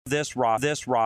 This rock.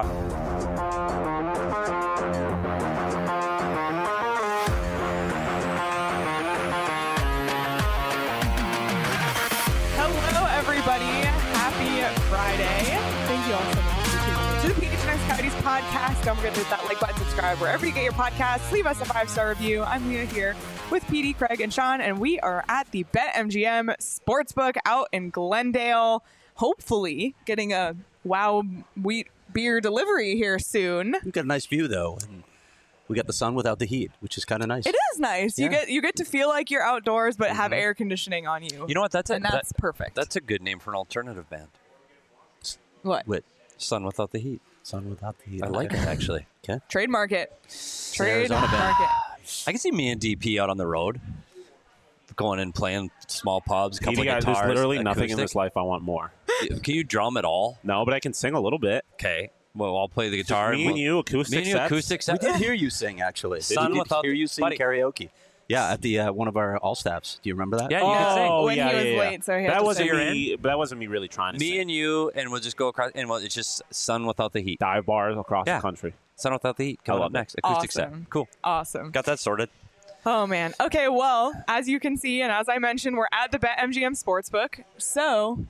Hello, everybody. Happy Friday. Thank you all so much for tuning in to the PHNX Coyotes podcast. Don't forget to hit that like button, subscribe wherever you get your podcasts. Leave us a 5-star review. I'm Leah here with PD, Craig, and Sean, and we are at the BetMGM Sportsbook out in Glendale. Hopefully getting a wow wheat beer delivery here soon. We've got a nice view, though. And we got the sun without the heat, which is kind of nice. It is nice. Yeah. You get to feel like you're outdoors, but have air conditioning on you. You know what? That's perfect. That's a good name for an alternative band. What? Sun Without the Heat. Sun without the heat. I like it, actually. Okay. Trademark it. Arizona band. I can see me and DP out on the road, going and playing small pubs, couple of guitars. There's literally nothing in acoustic. this life I want more. Can you drum at all? No, but I can sing a little bit. Okay. Well, I'll play the guitar. Me and you, acoustic sets. acoustic We set. did hear you sing, actually. Sun Did without hear you sing buddy. karaoke. Yeah, at the one of our all staffs. Do you remember that? Yeah, you can sing. Oh, When yeah, he was yeah, late, so he had that to wasn't say you're me. But that wasn't me really trying to Me sing. and you, and we'll just go across, and it's just Sun Without the Heat. Dive bars across Yeah. the country. Sun Without the Heat. Coming love up it. next. Acoustic Awesome. set. Cool. Awesome. Got that sorted. Oh, man. Okay, well, as you can see, and as I mentioned, we're at the BetMGM Sportsbook. So,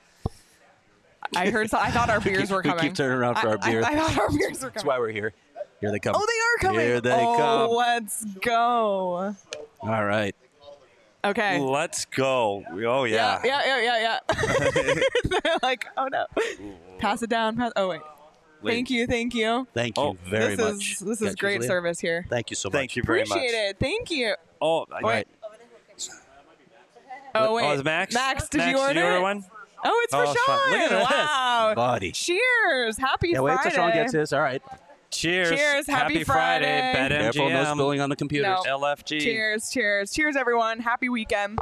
I thought our beers were We coming. keep turning around for our beer. I thought our beers were That's coming. why we're here. Here they come. Oh, they are coming. Here they oh, come. let's go. All right. Okay. Let's go. Oh, yeah. Yeah. They're like, oh, no. Pass it down. Oh, wait. Thank you. Thank you very much. This is great Julia. service here. Thank you so much. Thank you very much. Appreciate it. Thank you. Oh, Wait. Oh, wait. Oh, is Max? Max, did you Did order you order it? one? Oh, it's for Oh, Sean. it's fun. Look at this. Wow. Buddy. Cheers. Happy Yeah, wait Friday. till Sean gets his. All right. Cheers. Cheers. Happy Friday. Careful, no BetMGM. spilling on the computers. No. LFG. Cheers, everyone. Happy weekend.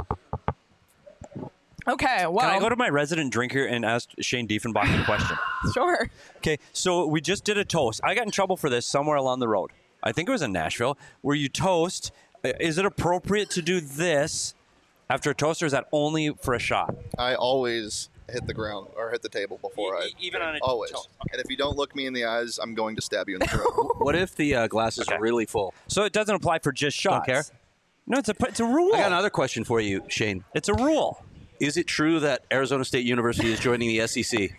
Okay, well. Can I go to my resident drinker and ask Shane Diefenbach a question? Sure. Okay, so we just did a toast. I got in trouble for this somewhere along the road. I think it was in Nashville, where you toast. Is it appropriate to do this after a toast, or is that only for a shot? I always hit the ground or hit the table before I Even on a always. toast. And if you don't look me in the eyes, I'm going to stab you in the throat. What if the glass is Okay. really full? So it doesn't apply for just shots. Don't care? No, it's a rule. I got another question for you, Shane. It's a rule. Is it true that Arizona State University is joining the SEC?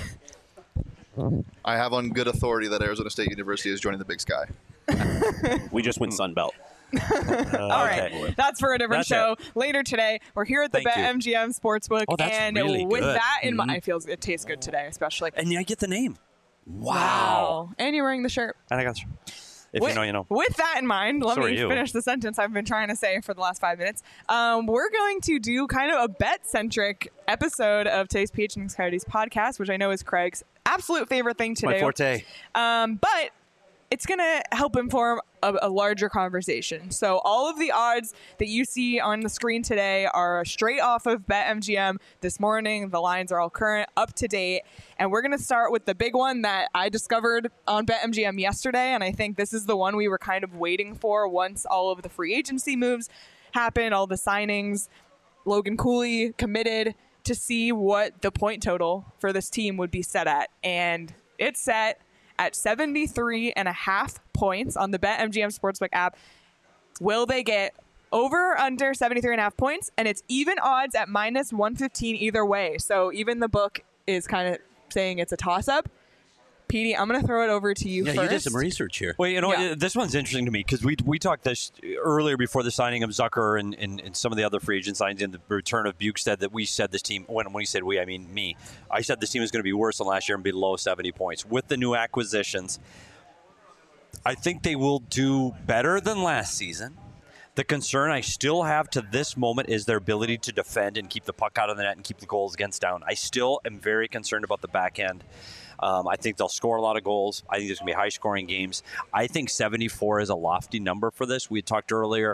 I have on good authority that Arizona State University is joining the Big Sky. We just went Sunbelt. All right. That's for a different That's show. Later today, we're here at the Thank you. BetMGM Sportsbook. Oh, that's and really with good. that in mind, it tastes good today, especially. And I get the name. Wow. And you're wearing the shirt. And I got if you know, you know. With that in mind, let So are me you. finish the sentence I've been trying to say for the last 5 minutes. We're going to do kind of a bet-centric episode of today's PHNX Coyotes podcast, which I know is Craig's absolute favorite thing to My do. forte. But it's going to help inform a larger conversation. So all of the odds that you see on the screen today are straight off of BetMGM this morning. The lines are all current, up to date. And we're going to start with the big one that I discovered on BetMGM yesterday. And I think this is the one we were kind of waiting for once all of the free agency moves happened, all the signings. Logan Cooley committed to see what the point total for this team would be set at. And it's set at 73.5 points on the BetMGM Sportsbook app. Will they get over or under 73.5 points? And it's even odds at minus 115 either way. So even the book is kind of saying it's a toss-up. Petey, I'm going to throw it over to you Yeah, first. you did some research here. Well, you know, Yeah. this one's interesting to me because we talked this earlier before the signing of Zucker and some of the other free agent signings and the return of Bukestad that we said this team, when we said we, I mean me, I said this team is going to be worse than last year and below 70 points. With the new acquisitions, I think they will do better than last season. The concern I still have to this moment is their ability to defend and keep the puck out of the net and keep the goals against down. I still am very concerned about the back end. I think they'll score a lot of goals. I think there's going to be high-scoring games. I think 74 is a lofty number for this. We had talked earlier.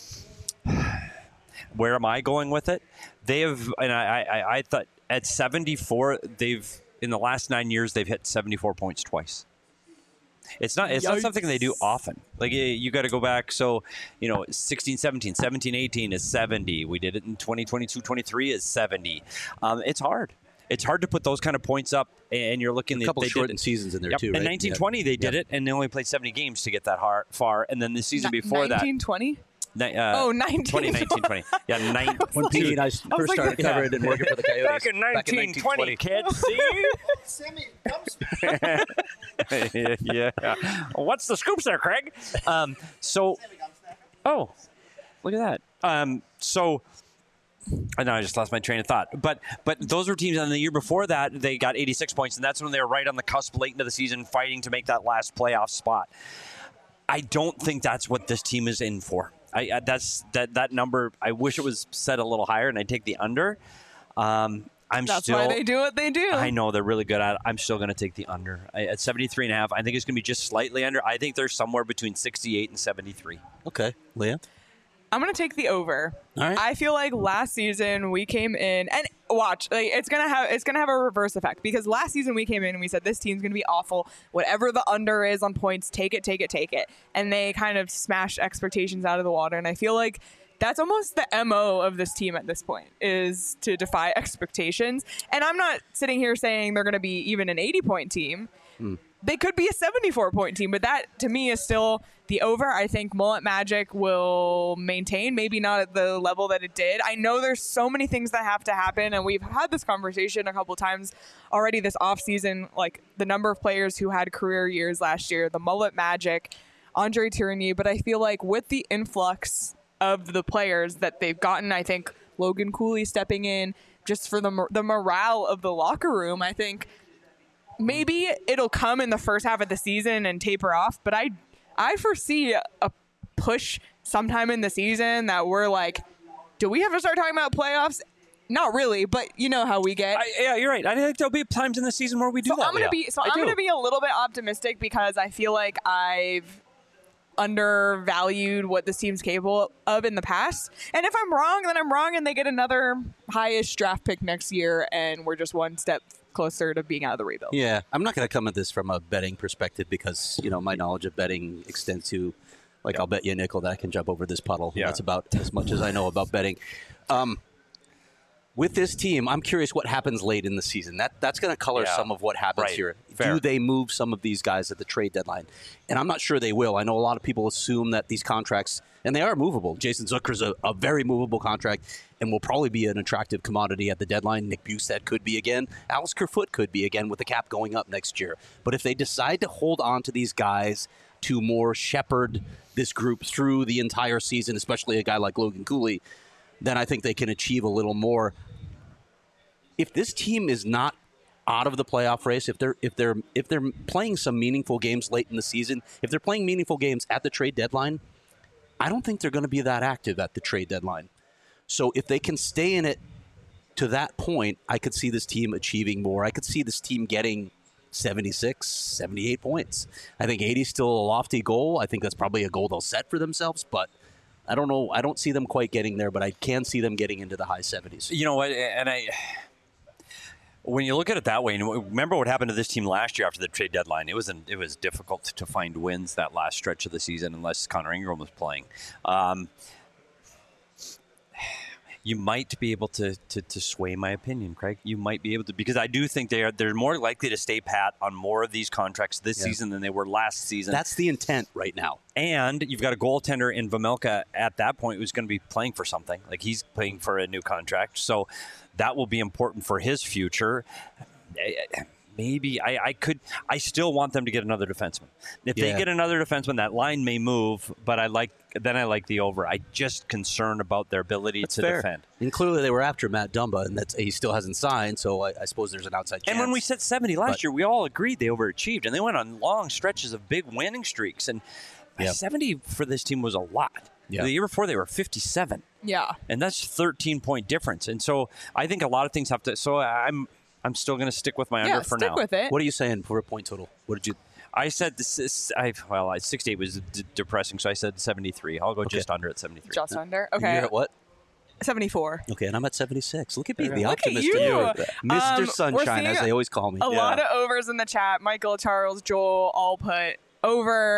Where am I going with it? They have, and I thought at 74, they've in the last 9 years they've hit 74 points twice. It's not something they do often. Like you got to go back. So, 16, 17, 17, 18 is 70. We did it in 2022, 23 is 70. It's hard. it's hard to put those kind of points up, and you're looking A couple they shortened seasons in there, Yep. too, In right? 1920, they did it, and they only played 70 games to get that far. And then the season before that. 1920? Oh, 1920. Yeah, When Pete and I first started covering and working for the Coyotes. Back in 1920, kids. See? Sammy, come Yeah. What's the scoops there, Craig? Oh, look at that. I know I just lost my train of thought. But those were teams, and the year before that, they got 86 points, and that's when they were right on the cusp late into the season, fighting to make that last playoff spot. I don't think that's what this team is in for. That number. I wish it was set a little higher, and I'd take the under. That's why they do what they do. I know they're really good at it. I'm still going to take the under at 73.5. I think it's going to be just slightly under. I think they're somewhere between 68 and 73. Okay, Leah. I'm going to take the over. All right. I feel like last season we came in and watch, like, it's going to have a reverse effect, because last season we came in and we said this team's going to be awful. Whatever the under is on points, take it. And they kind of smashed expectations out of the water. And I feel like that's almost the MO of this team at this point, is to defy expectations. And I'm not sitting here saying they're going to be even an 80-point team. They could be a 74-point team, but that, to me, is still the over. I think Mullet Magic will maintain, maybe not at the level that it did. I know there's so many things that have to happen, and we've had this conversation a couple times already this offseason, like the number of players who had career years last year, the Mullet Magic, Andre Tourigny, but I feel like with the influx of the players that they've gotten, I think Logan Cooley stepping in just for the morale of the locker room, I think maybe it'll come in the first half of the season and taper off, but I foresee a push sometime in the season that we're like, do we have to start talking about playoffs? Not really, but you know how we get. Yeah, you're right. I think there'll be times in the season where we do that. I'm gonna be a little bit optimistic, because I feel like I've undervalued what this team's capable of in the past. And if I'm wrong, then I'm wrong, and they get another highest draft pick next year, and we're just one step closer to being out of the rebuild. Yeah, I'm not going to come at this from a betting perspective, because my knowledge of betting extends to, like, I'll bet you a nickel that I can jump over this puddle. Yeah. That's about as much as I know about betting. With this team, I'm curious what happens late in the season. That's going to color some of what happens here. Fair. Do they move some of these guys at the trade deadline? And I'm not sure they will. I know a lot of people assume that these contracts, and they are movable. Jason Zucker's a very movable contract and will probably be an attractive commodity at the deadline. Nick Bjugstad could be again. Alex Kerfoot could be again, with the cap going up next year. But if they decide to hold on to these guys to more shepherd this group through the entire season, especially a guy like Logan Cooley, then I think they can achieve a little more. If this team is not out of the playoff race, if they're playing some meaningful games late in the season, if they're playing meaningful games at the trade deadline, I don't think they're going to be that active at the trade deadline. So if they can stay in it to that point, I could see this team achieving more. I could see this team getting 76, 78 points. I think 80 is still a lofty goal. I think that's probably a goal they'll set for themselves, but I don't know. I don't see them quite getting there, but I can see them getting into the high 70s. You know what? When you look at it that way, and remember what happened to this team last year after the trade deadline, it was difficult to find wins that last stretch of the season unless Connor Ingram was playing. You might be able to sway my opinion, Craig. You might be able to, because I do think they're more likely to stay pat on more of these contracts this season than they were last season. That's the intent right now. And you've got a goaltender in Vejmelka at that point who's going to be playing for something. Like, he's playing for a new contract. So that will be important for his future. Maybe I still want them to get another defenseman. If they get another defenseman, that line may move, but I like the over. I just concerned about their ability to defend. And clearly they were after Matt Dumba, and he still hasn't signed, so I suppose there's an outside chance. And when we said 70 last year, we all agreed they overachieved, and they went on long stretches of big winning streaks. And 70 for this team was a lot. Yeah. The year before, they were 57. Yeah. And that's 13-point difference. And so I think a lot of things have to – so I'm still going to stick with my under for now. Stick with it. What are you saying for a point total? What did you – I said 68 was depressing, so I said 73. I'll go just under at 73. Just under? Okay. And you're at what? 74. Okay, and I'm at 76. Look at me, the Look optimist at in you. you. Mr. Sunshine, as they always call me. A lot of overs in the chat. Michael, Charles, Joel all put over.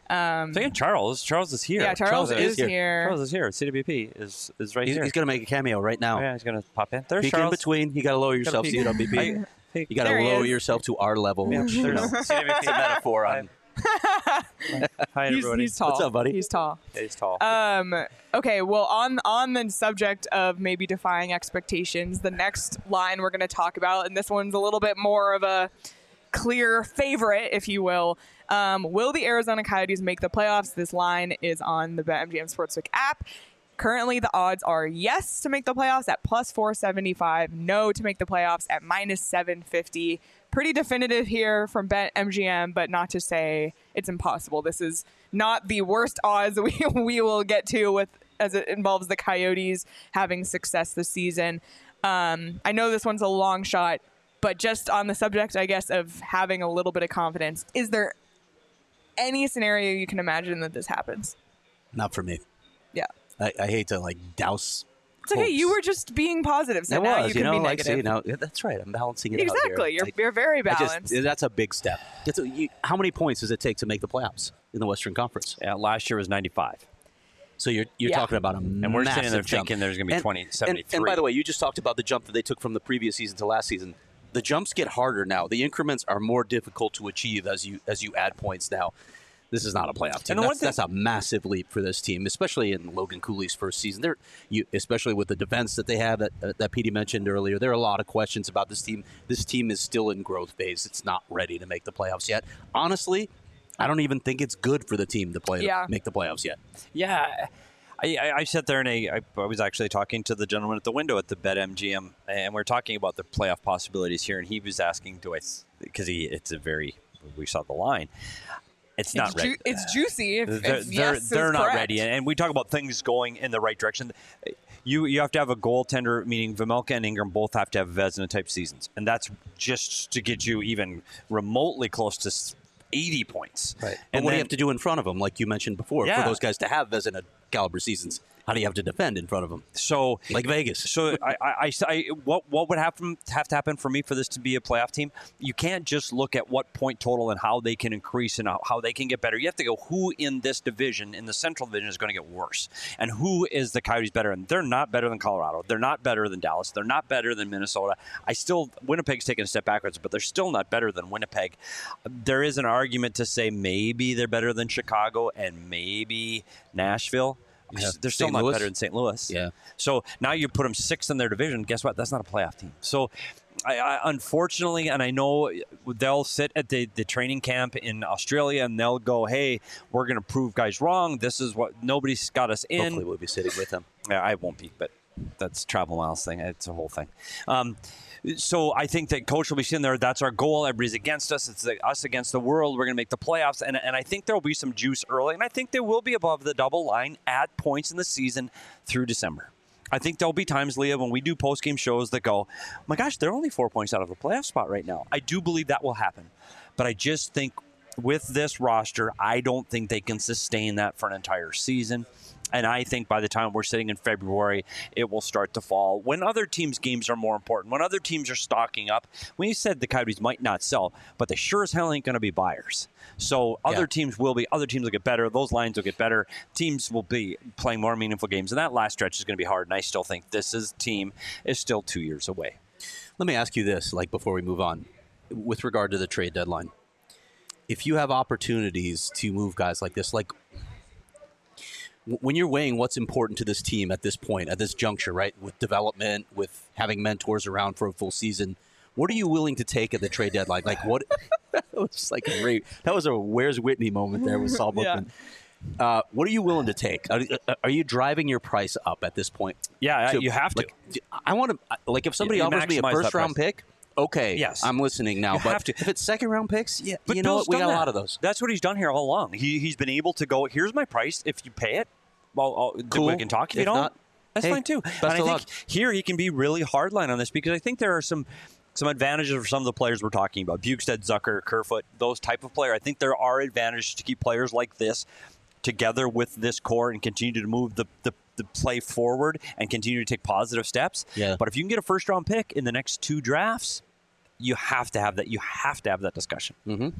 Thinking Charles is here. Yeah, Charles is here. here. Charles is here. CWP is right He's here. going to make a cameo right now. Oh, yeah, he's going to pop in. There's Peek in Charles. between. You got to lower yourself, peek. CWP. You got to There he lower is. yourself to our level. Yeah, You know, there's it's a metaphor on. Hi, everybody. He's tall. What's up, buddy? He's tall. Yeah, he's tall. Okay, well, on the subject of maybe defying expectations, the next line we're going to talk about, and this one's a little bit more of a clear favorite, if you will. Will the Arizona Coyotes make the playoffs? This line is on the BetMGM Sportsbook app. Currently, the odds are yes to make the playoffs at plus 475, no to make the playoffs at minus 750. Pretty definitive here from BetMGM, but not to say it's impossible. This is not the worst odds we will get to with as it involves the Coyotes having success this season. I know this one's a long shot, but just on the subject, I guess, of having a little bit of confidence, is there any scenario you can imagine that this happens? Not for me. Yeah. I hate to douse. It's okay. You were just being positive, so It now was, you can be like, negative. see, that's right. I'm balancing it Exactly. out here. You're very I balanced. that's a big step. How many points does it take to make the playoffs in the Western Conference? Yeah, last year was 95. So you're Yeah. talking about a And we're sitting there jump. thinking there's going to be 73. And by the way, you just talked about the jump that they took from the previous season to last season. The jumps get harder now. The increments are more difficult to achieve as you add points now. This is not a playoff team. And the one That's a massive leap for this team, especially in Logan Cooley's first season. Especially with the defense that they have that Petey mentioned earlier. There are a lot of questions about this team. This team is still in growth phase. It's not ready to make the playoffs yet. Honestly, I don't even think it's good for the team to make the playoffs yet. Yeah. I sat there and I was actually talking to the gentleman at the window at the BetMGM, and we're talking about the playoff possibilities here, and he was asking, we saw the line. It's not ready. It's juicy. They're not ready, and we talk about things going in the right direction. You have to have a goaltender, meaning Vejmelka and Ingram both have to have Vezina type seasons, and that's just to get you even remotely close to 80 points. Right. And And what do then- you have to do in front of them, like you mentioned before, Yeah. for those guys to have Vezina caliber seasons? How do you have to defend in front of them? So Like Vegas. So what would have to happen for me for this to be a playoff team? You can't just look at what point total and how they can increase and how they can get better. You have to go who in this division, in the Central Division, is going to get worse, and who is the Coyotes better? And they're not better than Colorado. They're not better than Dallas. They're not better than Minnesota. Winnipeg's taken a step backwards, but they're still not better than Winnipeg. There is an argument to say maybe they're better than Chicago and maybe Nashville. Yeah. They're still St. not Louis? better than St. Louis. Yeah. So now you put them sixth in their division. Guess what? That's not a playoff team. So I unfortunately, and I know they'll sit at the training camp in Australia and they'll go, hey, we're going to prove guys wrong. This is what nobody's got us in. Hopefully we'll be sitting with them. Yeah, I won't be, but that's travel miles thing. It's a whole thing. So I think that coach will be sitting there. That's our goal. Everybody's against us. It's us against the world. We're going to make the playoffs. And I think there will be some juice early. And I think they will be above the double line at points in the season through December. I think there'll be times, Leah, when we do post-game shows that go, oh my gosh, they're only 4 points out of a playoff spot right now. I do believe that will happen. But I just think with this roster, I don't think they can sustain that for an entire season. And I think by the time we're sitting in February, it will start to fall. When other teams' games are more important, when other teams are stocking up, when you said the Coyotes might not sell, but they sure as hell ain't going to be buyers. So other teams will get better. Those lines will get better. Teams will be playing more meaningful games. And that last stretch is going to be hard. And I still think team is still 2 years away. Let me ask you this, before we move on, with regard to the trade deadline. If you have opportunities to move guys like this, when you're weighing what's important to this team at this point, at this juncture, right, with development, with having mentors around for a full season, what are you willing to take at the trade deadline? What? That was that was a Where's Whitney moment there with Saul Bookman. Yeah. What are you willing to take? Are you driving your price up at this point? Yeah, you have to. I want to if somebody offers me a first round pick. Okay, yes, I'm listening now. Have to. If it's second round picks, but you know Bill's what? We got done a lot of those. That's what he's done here all along. He's been able to go, here's my price. If you pay it, well, cool. We can talk. If you don't, not, that's fine too. Best and I of think luck. here he can be really hardline on this because I think there are some advantages for some of the players we're talking about. Bukestad, Zucker, Kerfoot, those type of player. I think there are advantages to keep players like this together with this core and continue to move the play forward and continue to take positive steps. Yeah. But if you can get a first round pick in the next 2 drafts, you have to have that. You have to have that discussion. Mm-hmm.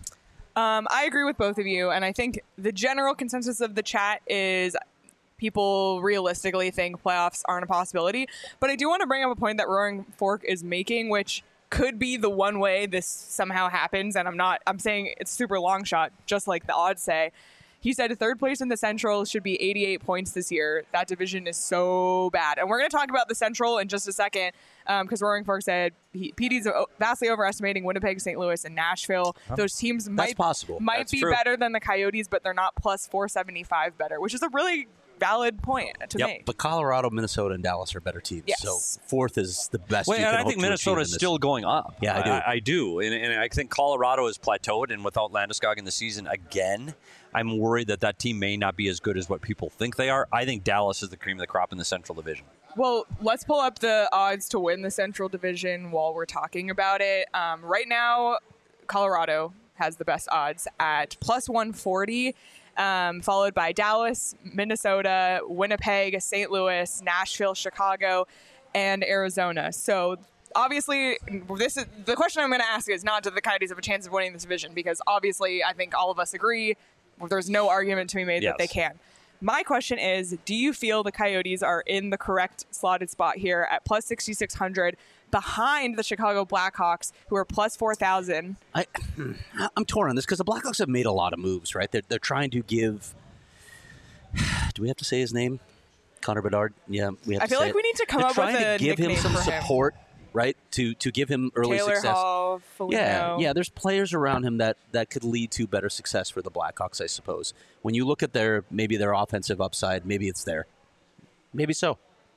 I agree with both of you, and I think the general consensus of the chat is people realistically think playoffs aren't a possibility. But I do want to bring up a point that Roaring Fork is making, which could be the one way this somehow happens, and I'm saying it's super long shot, just like the odds say. He said third place in the Central should be 88 points this year. That division is so bad. And we're going to talk about the Central in just a second because Roaring Fork said PD's vastly overestimating Winnipeg, St. Louis, and Nashville. Those teams might be better than the Coyotes, but they're not plus 475 better, which is a really valid point to make. But Colorado, Minnesota, and Dallas are better teams. Yes. So fourth is the best. Well, you can and I hope think to Minnesota achieve is in this. still going up. Yeah, I do. And I think Colorado is plateaued, and without Landeskog in the season again, I'm worried that team may not be as good as what people think they are. I think Dallas is the cream of the crop in the Central Division. Well, let's pull up the odds to win the Central Division while we're talking about it. Right now, Colorado has the best odds at plus 140. Followed by Dallas, Minnesota, Winnipeg, St. Louis, Nashville, Chicago, and Arizona. So obviously, this is the question I'm going to ask is not do the Coyotes have a chance of winning this division, because obviously I think all of us agree there's no argument to be made that they can. My question is, do you feel the Coyotes are in the correct slotted spot here at plus 6,600 behind the Chicago Blackhawks, who are plus 4,000? I'm torn on this because the Blackhawks have made a lot of moves, right? They're trying to give. Do we have to say his name? Connor Bedard? Yeah, we have. I feel like we need to come up with a nickname. They're trying to give him some support, right? To give him early Taylor success. Hall, Foligno. Yeah. There's players around him that could lead to better success for the Blackhawks, I suppose. When you look at their offensive upside, maybe it's there. Maybe so.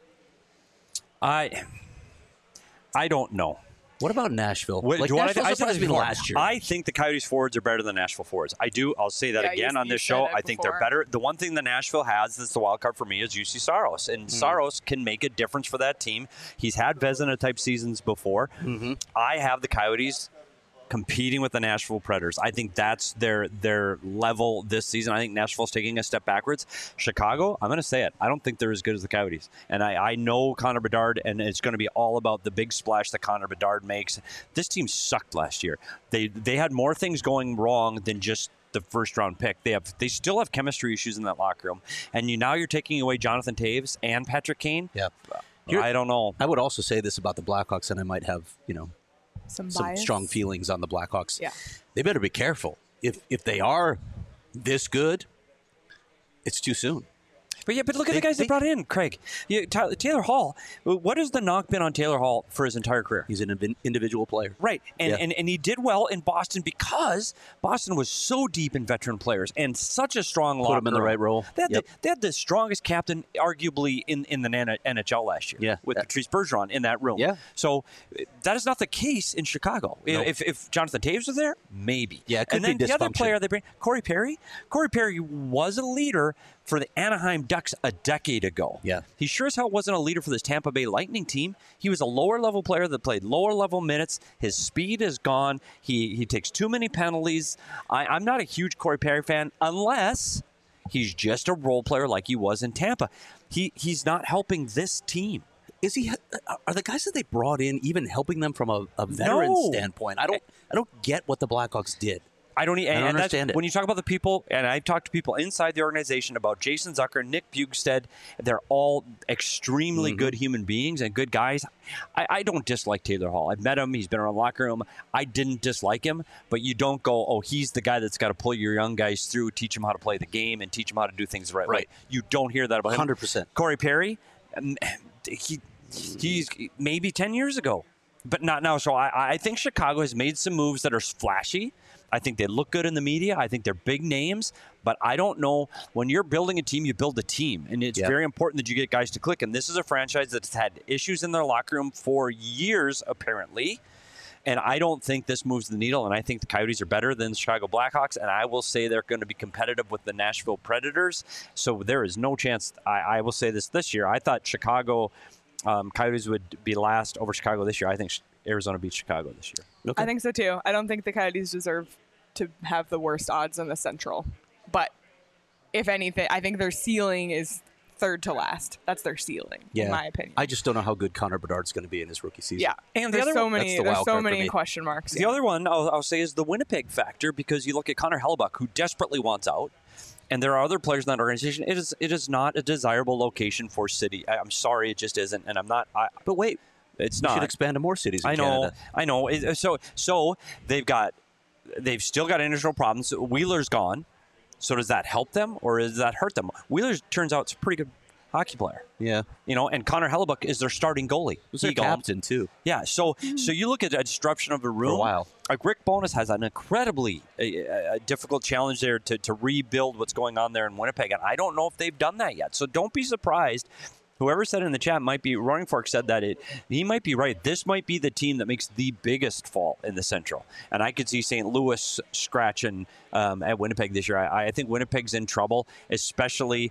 I don't know. What about Nashville? Nashville Nashville surprised me last year. I think the Coyotes forwards are better than Nashville forwards. I do. I'll say that again on this show. I think they're better. The one thing that Nashville has that's the wild card for me is UC Saros. And Saros can make a difference for that team. He's had Vezina-type seasons before. Mm-hmm. I have the Coyotes competing with the Nashville Predators. I think that's their level this season. I think Nashville's taking a step backwards. Chicago, I'm going to say it, I don't think they're as good as the Coyotes. And I know Connor Bedard, and it's going to be all about the big splash that Connor Bedard makes. This team sucked last year. They had more things going wrong than just the first round pick. They still have chemistry issues in that locker room. And now you're taking away Jonathan Taves and Patrick Kane. Yeah. I don't know. I would also say this about the Blackhawks, and I might have, some strong feelings on the Blackhawks. Yeah. They better be careful. If they are this good, it's too soon. But look at the guys they brought in, Craig. Taylor Hall. What has the knock been on Taylor Hall for his entire career? He's an individual player. Right. And he did well in Boston because Boston was so deep in veteran players and such a strong locker room. Put him in the right role. They had the strongest captain, arguably, in the NHL last year with Patrice Bergeron in that room. Yeah. So that is not the case in Chicago. No. If Jonathan Taves was there, maybe. Yeah, it could and then be the other dysfunction. player they bring, Corey Perry. Corey Perry was a leader for the Anaheim Ducks a decade ago. Yeah. He sure as hell wasn't a leader for this Tampa Bay Lightning team. He was a lower-level player that played lower-level minutes. His speed is gone. He takes too many penalties. I'm not a huge Corey Perry fan unless he's just a role player like he was in Tampa. He's not helping this team. Is he? Are the guys that they brought in even helping them from a veteran standpoint? I don't get what the Blackhawks did. I don't understand it. When you talk about the people, and I've talked to people inside the organization about Jason Zucker, Nick Bjugstad, they're all extremely good human beings and good guys. I don't dislike Taylor Hall. I've met him. He's been around the locker room. I didn't dislike him, but you don't go, oh, he's the guy that's got to pull your young guys through, teach them how to play the game, and teach them how to do things the right way. You don't hear that about him. 100%. Corey Perry, he's maybe 10 years ago, but not now. So I think Chicago has made some moves that are flashy. I think they look good in the media. I think they're big names, but I don't know. When you're building a team, you build a team, and it's very important that you get guys to click. And this is a franchise that's had issues in their locker room for years, apparently. And I don't think this moves the needle, and I think the Coyotes are better than the Chicago Blackhawks, and I will say they're going to be competitive with the Nashville Predators. So there is no chance. I will say this year. I thought Chicago Coyotes would be last over Chicago this year. I think Arizona beats Chicago this year. Okay. I think so, too. I don't think the Coyotes deserve to have the worst odds in the Central. But if anything, I think their ceiling is third to last. That's their ceiling, Yeah. in my opinion. I just don't know how good Connor Bedard's going to be in his rookie season. Yeah, And the there's other so one- many. that's the There's wild so card for many me. question marks. The other one I'll say is the Winnipeg factor, because you look at Connor Hellebuck, who desperately wants out, and there are other players in that organization. It is not a desirable location for City. I'm sorry, it just isn't, and I'm not. But wait, It's we not. should expand to more cities in I know. Canada. I know. So they've still got international problems. Wheeler's gone. So does that help them or does that hurt them? Wheeler turns out is a pretty good hockey player. Yeah. And Connor Hellebuck is their starting goalie. Who's their captain, too? Yeah, so you look at a disruption of a room. For a while. Like Rick Bowness has an incredibly difficult challenge there to rebuild what's going on there in Winnipeg, and I don't know if they've done that yet. So don't be surprised. Whoever said in the chat might be Running Fork said that he might be right. This might be the team that makes the biggest fall in the Central, and I could see St. Louis scratching at Winnipeg this year. I think Winnipeg's in trouble, especially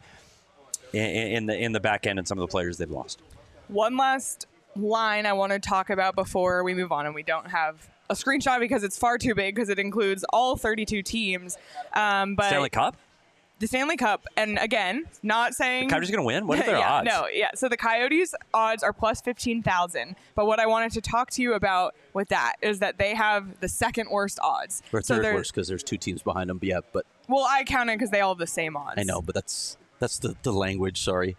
in the back end and some of the players they've lost. One last line I want to talk about before we move on, and we don't have a screenshot because it's far too big because it includes all 32 teams. But Stanley Cup? the Stanley Cup, and again, not saying Coyotes going to win? What are their yeah, odds? No, yeah. So the Coyotes' odds are plus 15,000. But what I wanted to talk to you about with that is that they have the second worst odds. Or So third they're- worst because there's two teams behind them. Yeah, but Well, I count it because they all have the same odds. I know, but that's the language. Sorry,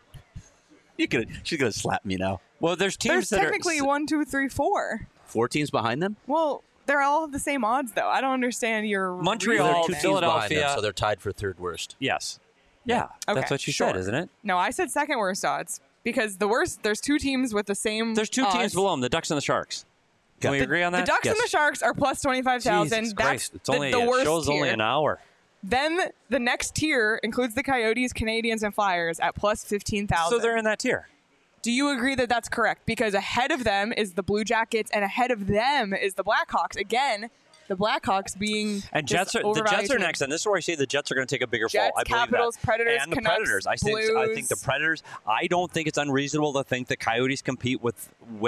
she's gonna slap me now. Well, there's teams There's that technically are 1, 2, 3, 4. 4 teams behind them. Well, they're all the same odds, though. I don't understand your Montreal, There are reasoning. two teams behind them, Philadelphia. so they're tied for third worst. Yes. Yeah, Okay, that's what you sure. said, isn't it? No, I said second worst odds because the worst. There's two teams with the same. There's two odds. teams below them, the Ducks and the Sharks. Can we agree on that? The Ducks and the Sharks are plus 25,000. Jesus That's Christ. It's only, the it worst show's tier. only an hour. Then the next tier includes the Coyotes, Canadians, and Flyers at plus 15,000. So they're in that tier. Do you agree that that's correct? Because ahead of them is the Blue Jackets, and ahead of them is the Blackhawks. Again, the Blackhawks being And this the Jets overvalued are team. next, and this is where I say the Jets are going to take a bigger Jets, fall. I believe Capitals, that. Predators, and the Canucks, Predators. I think Blues. the Predators. I don't think it's unreasonable to think that Coyotes compete with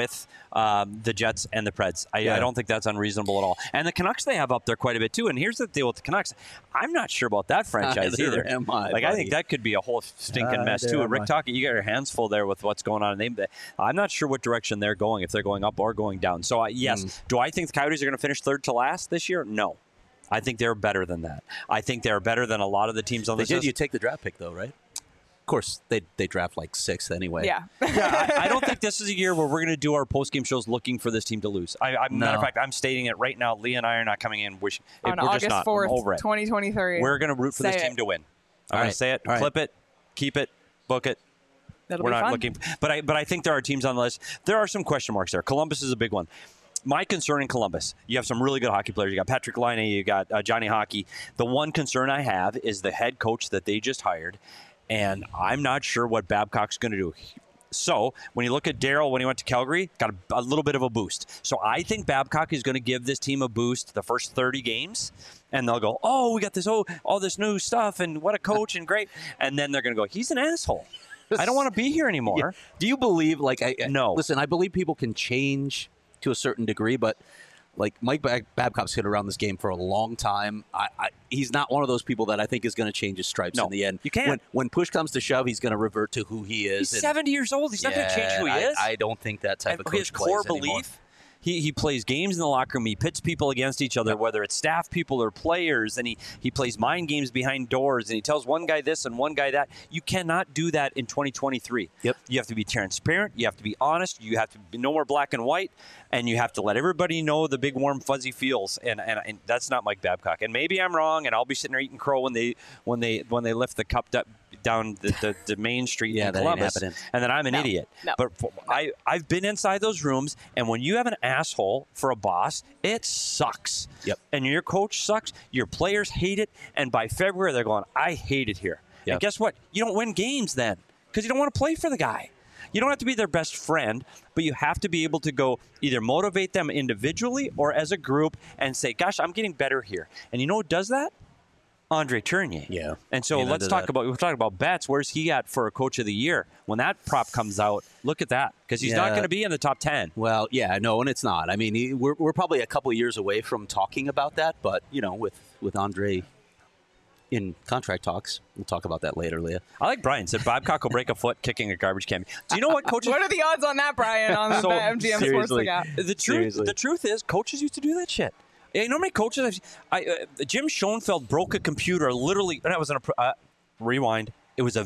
the Jets and the Preds. I don't think that's unreasonable at all. And the Canucks they have up there quite a bit too. And here's the deal with the Canucks. I'm not sure about that franchise Neither either. am I, Like I buddy. think that could be a whole stinking mess Neither too. am Rick I. Tocchet, you got your hands full there with what's going on. I'm not sure what direction they're going. If they're going up or going down. So yes, do I think the Coyotes are going to finish third to last this year? No. I think they're better than that. I think they're better than a lot of the teams on They this did. list. You take the draft pick though, right? Of course, they draft like 6th anyway. Yeah. Yeah, I don't think this is a year where we're going to do our post-game shows looking for this team to lose. Matter of fact, I'm stating it right now. Lee and I are not coming in wishing. On we're August just not. 4th, I'm over it. 2023. We're going to root for Say this it. team to win. I'm All going right. to say it, All right. clip it, keep it, book it. That'll We're be not fun. looking. But I think there are teams on the list. There are some question marks there. Columbus is a big one. My concern in Columbus, you have some really good hockey players. You got Patrick Laine, you got Johnny Hockey. The one concern I have is the head coach that they just hired, and I'm not sure what Babcock's going to do. So when you look at Darryl when he went to Calgary, got a little bit of a boost. So I think Babcock is going to give this team a boost the first 30 games, and they'll go, oh, we got this, all this new stuff, and what a coach, and great. And then they're going to go, he's an asshole. I don't want to be here anymore. Yeah. Do you believe No. Listen, I believe people can change to a certain degree, but like Mike Babcock's been around this game for a long time. He's not one of those people that I think is going to change his stripes No, in the end. you can't. When push comes to shove, he's going to revert to who he is. He's 70 years old. He's not going to change who he is. I don't think that type of coach His core plays anymore. belief. He plays games in the locker room. He pits people against each other, whether it's staff people or players, and he plays mind games behind doors, and he tells one guy this and one guy that. You cannot do that in 2023. Yep. You have to be transparent. You have to be honest. You have to be no more black and white, and you have to let everybody know the big warm fuzzy feels. And that's not Mike Babcock. And maybe I'm wrong, and I'll be sitting there eating crow when they lift the cup down the main street Yeah, in that ain't Columbus, happening. and then I'm an idiot. No. But I've been inside those rooms, and when you have an asshole for a boss, it sucks. Yep. And your coach sucks. Your players hate it, and by February they're going, I hate it here. Yep. And guess what? You don't win games then because you don't want to play for the guy. You don't have to be their best friend, but you have to be able to go either motivate them individually or as a group and say, gosh, I'm getting better here. And you know who does that? Andre Tournier. Yeah. And so Amen we'll to talk that. about Betts. Where's he at for a coach of the year? When that prop comes out, look at that because he's not Yeah. going to be in the top 10. Well, yeah, no, and it's not. I mean, we're probably a couple of years away from talking about that, but with Andre in contract talks. We'll talk about that later, Leah. I like Brian said Babcock will break a foot kicking a garbage can. Do you know what coaches? What are the odds on that, Brian, on the So, MGM seriously. Sportsbook app? The truth is, coaches used to do that shit. You know how many coaches? Jim Schoenfeld broke a computer literally. That was rewind. It was a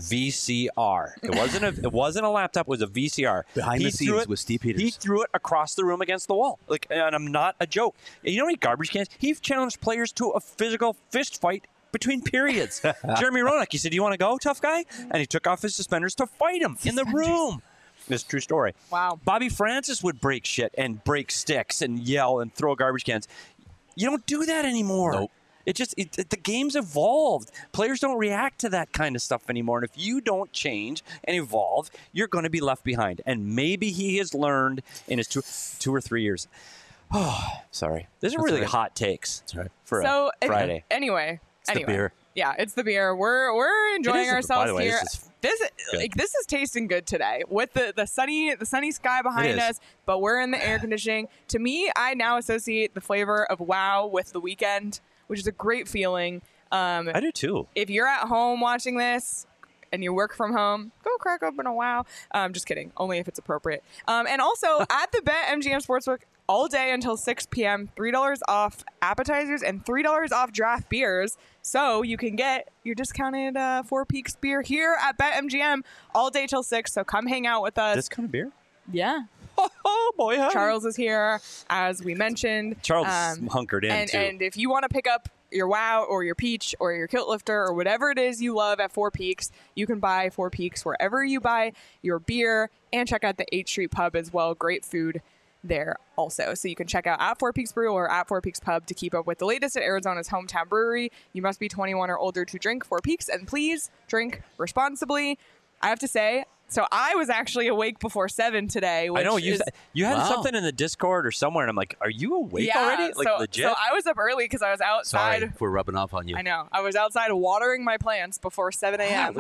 VCR. It wasn't a laptop. It was a VCR. Behind the scenes with Steve Peters. He threw it across the room against the wall. And I'm not a joke. You know how many garbage cans? He challenged players to a physical fist fight between periods. Jeremy Roenick, he said, "Do you want to go, tough guy?" And he took off his suspenders to fight him in the room. It's a true story. Wow. Bobby Francis would break shit and break sticks and yell and throw garbage cans. You don't do that anymore. Nope. The game's evolved. Players don't react to that kind of stuff anymore. And if you don't change and evolve, you're going to be left behind. And maybe he has learned in his 2 or 3 years. Oh, sorry. These are really hot takes. That's right. For So a Friday. Anyway, the beer. Yeah, it's the beer. We're enjoying by ourselves the way, here. this is good. This is tasting good today with the sunny sky behind is. us, but we're in the air conditioning. To me, I now associate the flavor of Wow with the weekend, which is a great feeling. I do too. If you're at home watching this and you work from home, go crack open a Wow. Just kidding. Only if it's appropriate. And also at the BetMGM Sportsbook all day until 6 p.m., $3 off appetizers and $3 off draft beers. So you can get your discounted Four Peaks beer here at BetMGM all day till 6. So come hang out with us. This kind of beer? Yeah. Oh, boy. Huh? Charles is here, as we mentioned. Charles hunkered in, too. And if you want to pick up your Wow or your Peach or your Kilt Lifter or whatever it is you love at Four Peaks, you can buy Four Peaks wherever you buy your beer, and check out the 8th Street Pub as well. Great food there also. So you can check out at Four Peaks Brew or at Four Peaks Pub to keep up with the latest at Arizona's hometown brewery. You must be 21 or older to drink Four Peaks, and please drink responsibly. I have to say, so I was actually awake before 7 today. Which I know you had Wow. something in the Discord or somewhere, and I'm like, "Are you awake already?" Like legit. So I was up early because I was outside. Sorry if we're rubbing off on you. I know. I was outside watering my plants before 7 a.m.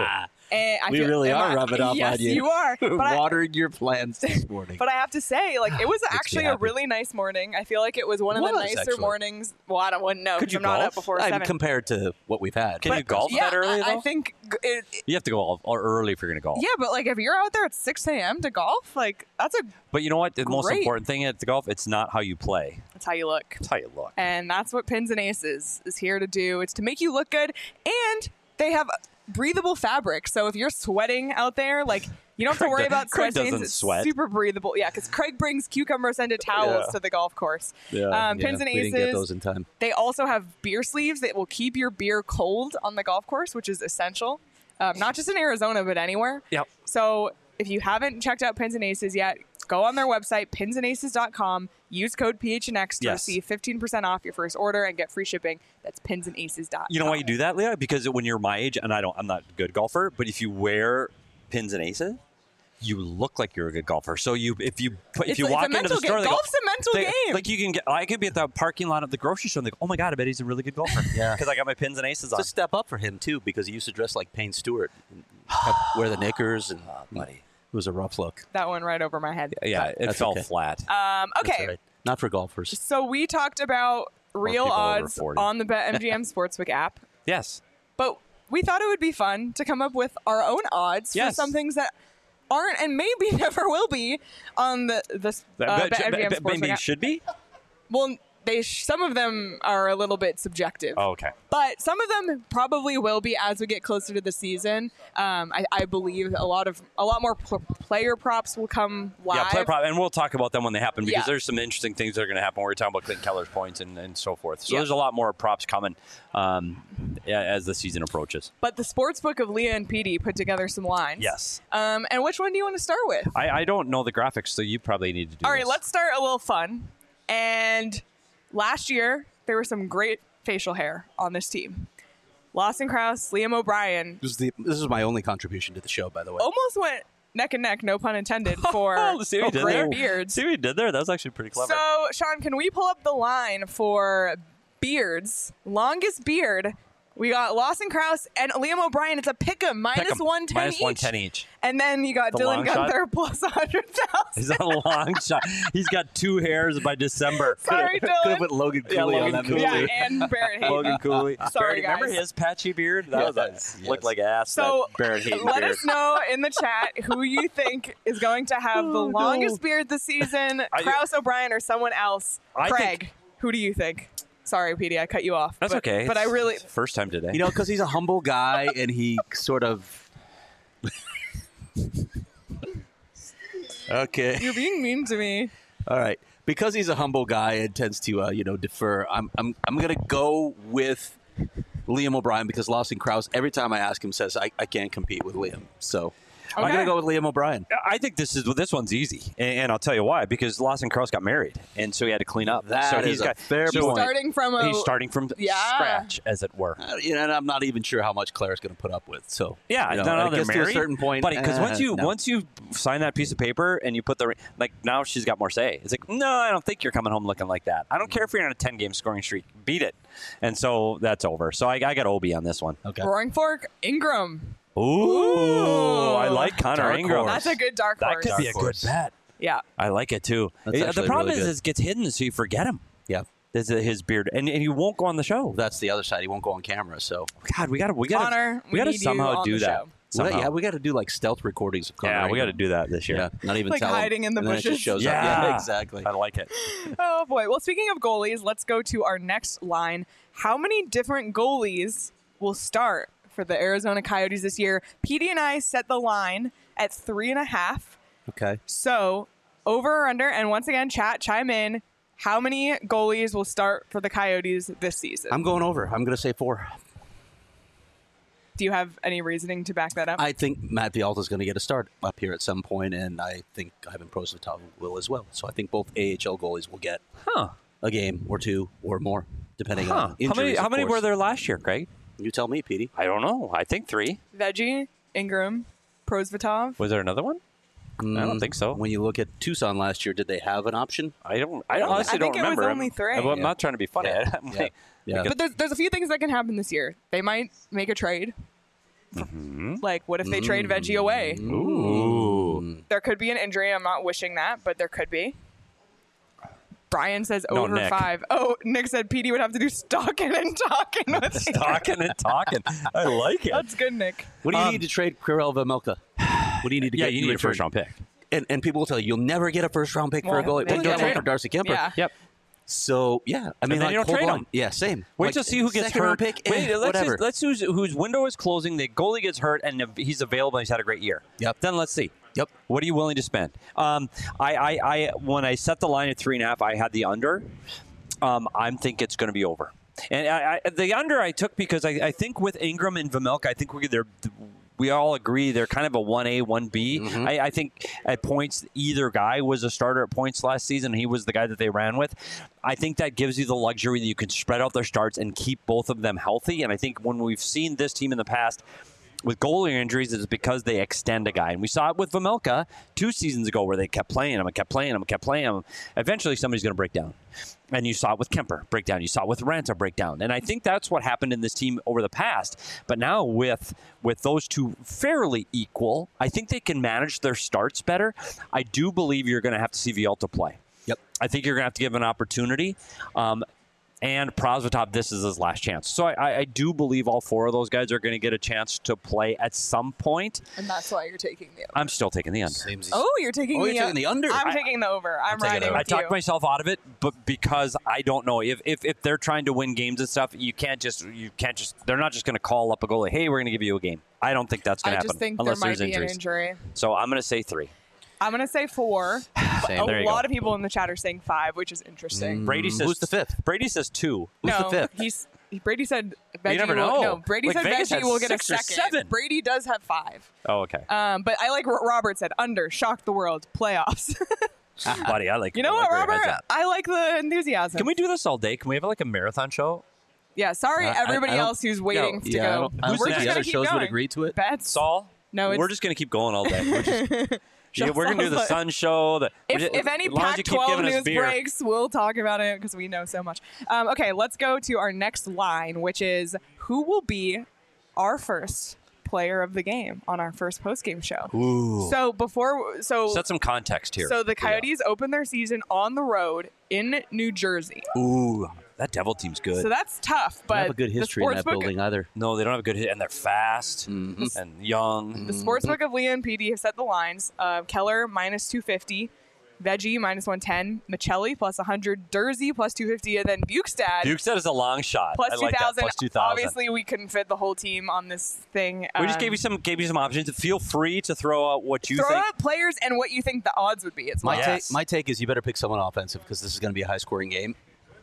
And I We feel- really am are I- rubbing off yes, on you. you are. But I, Watering your plants this morning. but I have to say, like, it was actually a happy. really nice morning. I feel like it was one of the Was, nicer actually. mornings. Well, I wouldn't know. Could 'cause you I'm not golf? up before I'm 7. compared to what we've had. Can you golf yeah, that early, I though? think You have to go early if you're going to golf. yeah, but like if you're out there at 6 a.m. to golf, like that's But you know what? The most Great. important thing at the golf, it's not how you play. that's how you look. It's how you look. And that's what Pins and Aces is here to do. It's to make you look good, and they have breathable fabric. So if you're sweating out there, like you don't have to Craig worry do- about Craig sweat stains. doesn't It's sweat. super breathable. Yeah, because Craig brings cucumber scented towels Yeah. to the golf course. Yeah. Pins and we Aces. didn't get those in time. They also have beer sleeves that will keep your beer cold on the golf course, which is essential. Not just in Arizona, but anywhere. Yep. So if you haven't checked out Pins and Aces yet, go on their website, pinsandaces.com. Use code PHNX to Yes. receive 15% off your first order and get free shipping. That's pinsandaces.com. You know why you do that, Leah? Because when you're my age, and I'm not a good golfer, but if you wear Pins and Aces, you look like you're a good golfer. So if you walk it's a into the mental store, game. they go, Golf's a mental game. Like you can get, I could be at the parking lot of the grocery store and they go, "Oh my god, I bet he's a really good golfer." Yeah. because I got my Pins and Aces It's on. a step up for him, too, because he used to dress like Payne Stewart. Wear the knickers, and buddy. it was a rough look. That one right over my head. Yeah, it That's fell okay. flat. Okay. That's all right. Not for golfers. So we talked about real people over odds 40. on the BetMGM Sportsbook app. Yes. But we thought it would be fun to come up with our own odds for Yes. some things that aren't and maybe never will be on the BetMGM Sportsbook Maybe app. should be. Well, some of them are a little bit subjective. Oh, okay. But some of them probably will be as we get closer to the season. I believe a lot more player props will come live. Yeah, player prop, and we'll talk about them when they happen because Yeah. there's some interesting things that are going to happen. We're talking about Clinton Keller's points and so forth. So Yeah. there's a lot more props coming as the season approaches. But the Sportsbook of Leah and Petey put together some lines. Yes. And which one do you want to start with? I don't know the graphics, so you probably need to do All right, this. let's start a little fun. And last year, there was some great facial hair on this team. Lawson Krause, Liam O'Brien This is my only contribution to the show, by the way. almost went neck and neck, no pun intended, for See what he did great there? beards. See what he did there? That was actually pretty clever. So, Sean, can we pull up the line for beards? Longest beard We got Lawson Krause and Liam O'Brien. It's a pick'em, minus 110 minus each. 110 each. And then you got The Dylan long shot? Gunther plus 100,000. He's on a long shot. He's got 2 hairs by December. Sorry, Could have Dylan. put Logan Yeah, Cooley on Logan that Cooley. move, Yeah, too. and Barrett Hayton. Logan Cooley. Sorry, Remember guys. his patchy beard? That Yes, looked like ass. So that Barrett Hayton let beard. us know in the chat who you think is going to have the longest beard this season, Krause, O'Brien, or someone else. I Craig, think- who do you think? Sorry, Petey, I cut you off. That's okay. But I really... It's the first time today. You know, because he's a humble guy and he sort of. Okay. You're being mean to me. All right. Because he's a humble guy and tends to, defer. I'm gonna go with Liam O'Brien because Lawson Krause, every time I ask him, says I can't compete with Liam. So I'm Okay. gonna go with Liam O'Brien. I think this one's easy, and I'll tell you why. Because Lawson Krause got married, and so he had to clean up. That so is he's a got fair so point. He's starting from Yeah. scratch, as it were. And I'm not even sure how much Claire's going to put up with. So Yeah, you know, no, I they're guess married, to a certain point, buddy. Because no. once you sign that piece of paper and you put the now she's got more say. It's like, no, I don't think you're coming home looking like that. I don't care if you're on a 10-game scoring streak. Beat it, and so that's over. So I got Obi on this one. Okay. Roaring Fork, Ingram. Ooh, I like Connor Dark Ingram. horse. That's a good dark That horse. could be a good horse. bet. Yeah. I like it too. That's The actually problem really is good. it gets hidden, so you forget him. Yeah. There's his beard, and he won't go on the show. That's the other side. He won't go on camera. So God, we got to Connor, we gotta need you somehow on do the that. show. Somehow. we got to do like stealth recordings of Connor. Yeah, we got to Ingram. do that this year. Yeah, not even Like tell him. hiding in the And then it bushes? just shows up. Yeah. Yeah, exactly. I like it. Oh boy. Well, speaking of goalies, let's go to our next line. How many different goalies will start for the Arizona Coyotes this year? Petey and I set the line at 3.5. Okay. So over or under, and once again, chat, chime in. How many goalies will start for the Coyotes this season? I'm going over. I'm going to say 4. Do you have any reasoning to back that up? I think Matt Vialta is going to get a start up here at some point, and I think Ivan Prosvetov will as well. So I think both AHL goalies will get a game or 2 or more, depending on injuries. How of many course. were there last year, Craig? You tell me, Petey. I don't know. I think 3. Veggie, Ingram, Prosvetov. Was there another one? I don't think so. When you look at Tucson last year, did they have an option? I honestly don't think it was remember. only 3. I'm not trying to be funny. Yeah. I'm Yeah. like- Yeah. But there's a few things that can happen this year. They might make a trade. Like, what if they trade Veggie away? Ooh. There could be an injury. I'm not wishing that, but there could be. Brian says No, over Nick. 5. Oh, Nick said PD would have to do stalking and talking with you. Talking and talking. I like it. That's good, Nick. What do you need to trade Kirill Vejmelka? What do you need to Yeah, get? you in need a return? first-round pick. And people will tell you, you'll never get a first-round pick for a Well, goalie. then They you got trade one for him. Darcy Kemper. Yeah. Yep. So, yeah. I mean, then like, you don't hold trade on. him. Yeah, same. Wait Like, till see who gets second-round hurt. Pick, Wait, whatever. let's choose whose window is closing. The goalie gets hurt, and if he's available, and he's had a great year. Yep. Then let's see. Yep. What are you willing to spend? I when I set the line at 3.5, I had the under. I think it's going to be over. And the under I took because I think with Ingram and Vejmelka, I think we all agree they're kind of a 1A, 1B. Mm-hmm. I think at points, either guy was a starter at points last season. He was the guy that they ran with. I think that gives you the luxury that you can spread out their starts and keep both of them healthy. And I think when we've seen this team in the past with goalie injuries, it's because they extend a guy. And we saw it with Vejmelka 2 seasons ago where they kept playing him and kept playing him and kept playing him. Eventually, somebody's going to break down. And you saw it with Kemper, break down. You saw it with Ranta, break down. And I think that's what happened in this team over the past. But now with those two fairly equal, I think they can manage their starts better. I do believe you're going to have to see Vialta play. Yep. I think you're going to have to give an opportunity. And Prosvetov, this is his last chance. So I do believe all 4 of those guys are going to get a chance to play at some point. And that's why you're taking the over. I'm still taking the under. Oh, you're taking you're taking the under? I'm taking the over. I'm taking the riding over. I with you. talked myself out of it, but because I don't know if they're trying to win games and stuff, you can't just they're not just going to call up a goalie. Hey, we're going to give you a game. I don't think that's going to I happen just think there unless might there's be injuries. an injury. So I'm going to say 3. I'm going to say 4. Same. There A you lot go. of people in the chat are saying 5, which is interesting. Brady says Who's the 5th? Brady says 2. Who's the No, 5th? Brady said Veggie never will, know. No, Brady Like, said Vegas Veggie has will get a 6 or second. 7. Brady does have 5. Oh, okay. But I like what Robert said. Under. Shocked the world. Playoffs. Buddy, I like You know I what, like where your head's Robert? at. I like the enthusiasm. Can we do this all day? Can we have like a marathon show? Yeah, sorry I everybody don't- else who's waiting to Yeah, I go. don't We're think just the gonna other keep shows going. would agree to it. Bets? Saul? No, We're just going to keep going all day. Yeah, we're gonna do the Sun Show. If any as long as you keep Pac-12 giving us news beer. breaks, we'll talk about it because we know so much. Okay, let's go to our next line, which is who will be our first player of the game on our first post-game show. Ooh. Set some context here. So the Coyotes open their season on the road in New Jersey. Ooh. That Devil team's good. So that's tough, but Don't have a good history in that sportsbook- building either. No, they don't have a good hit, and they're fast Mm-hmm. and young. The Sportsbook of Leah and PD have set the lines. Keller minus 250, Veggie minus 110, Michelli plus 100, Dursey plus 250, and then Bukestad Bukestad is a long shot. plus I like that. 2,000. Plus 2,000. Obviously, we couldn't fit the whole team on this thing. We just gave you some options. Feel free to throw out what you Throw think. out players and what you think the odds would be. It's My, Yes. my take is you better pick someone offensive because this is going to be a high-scoring game.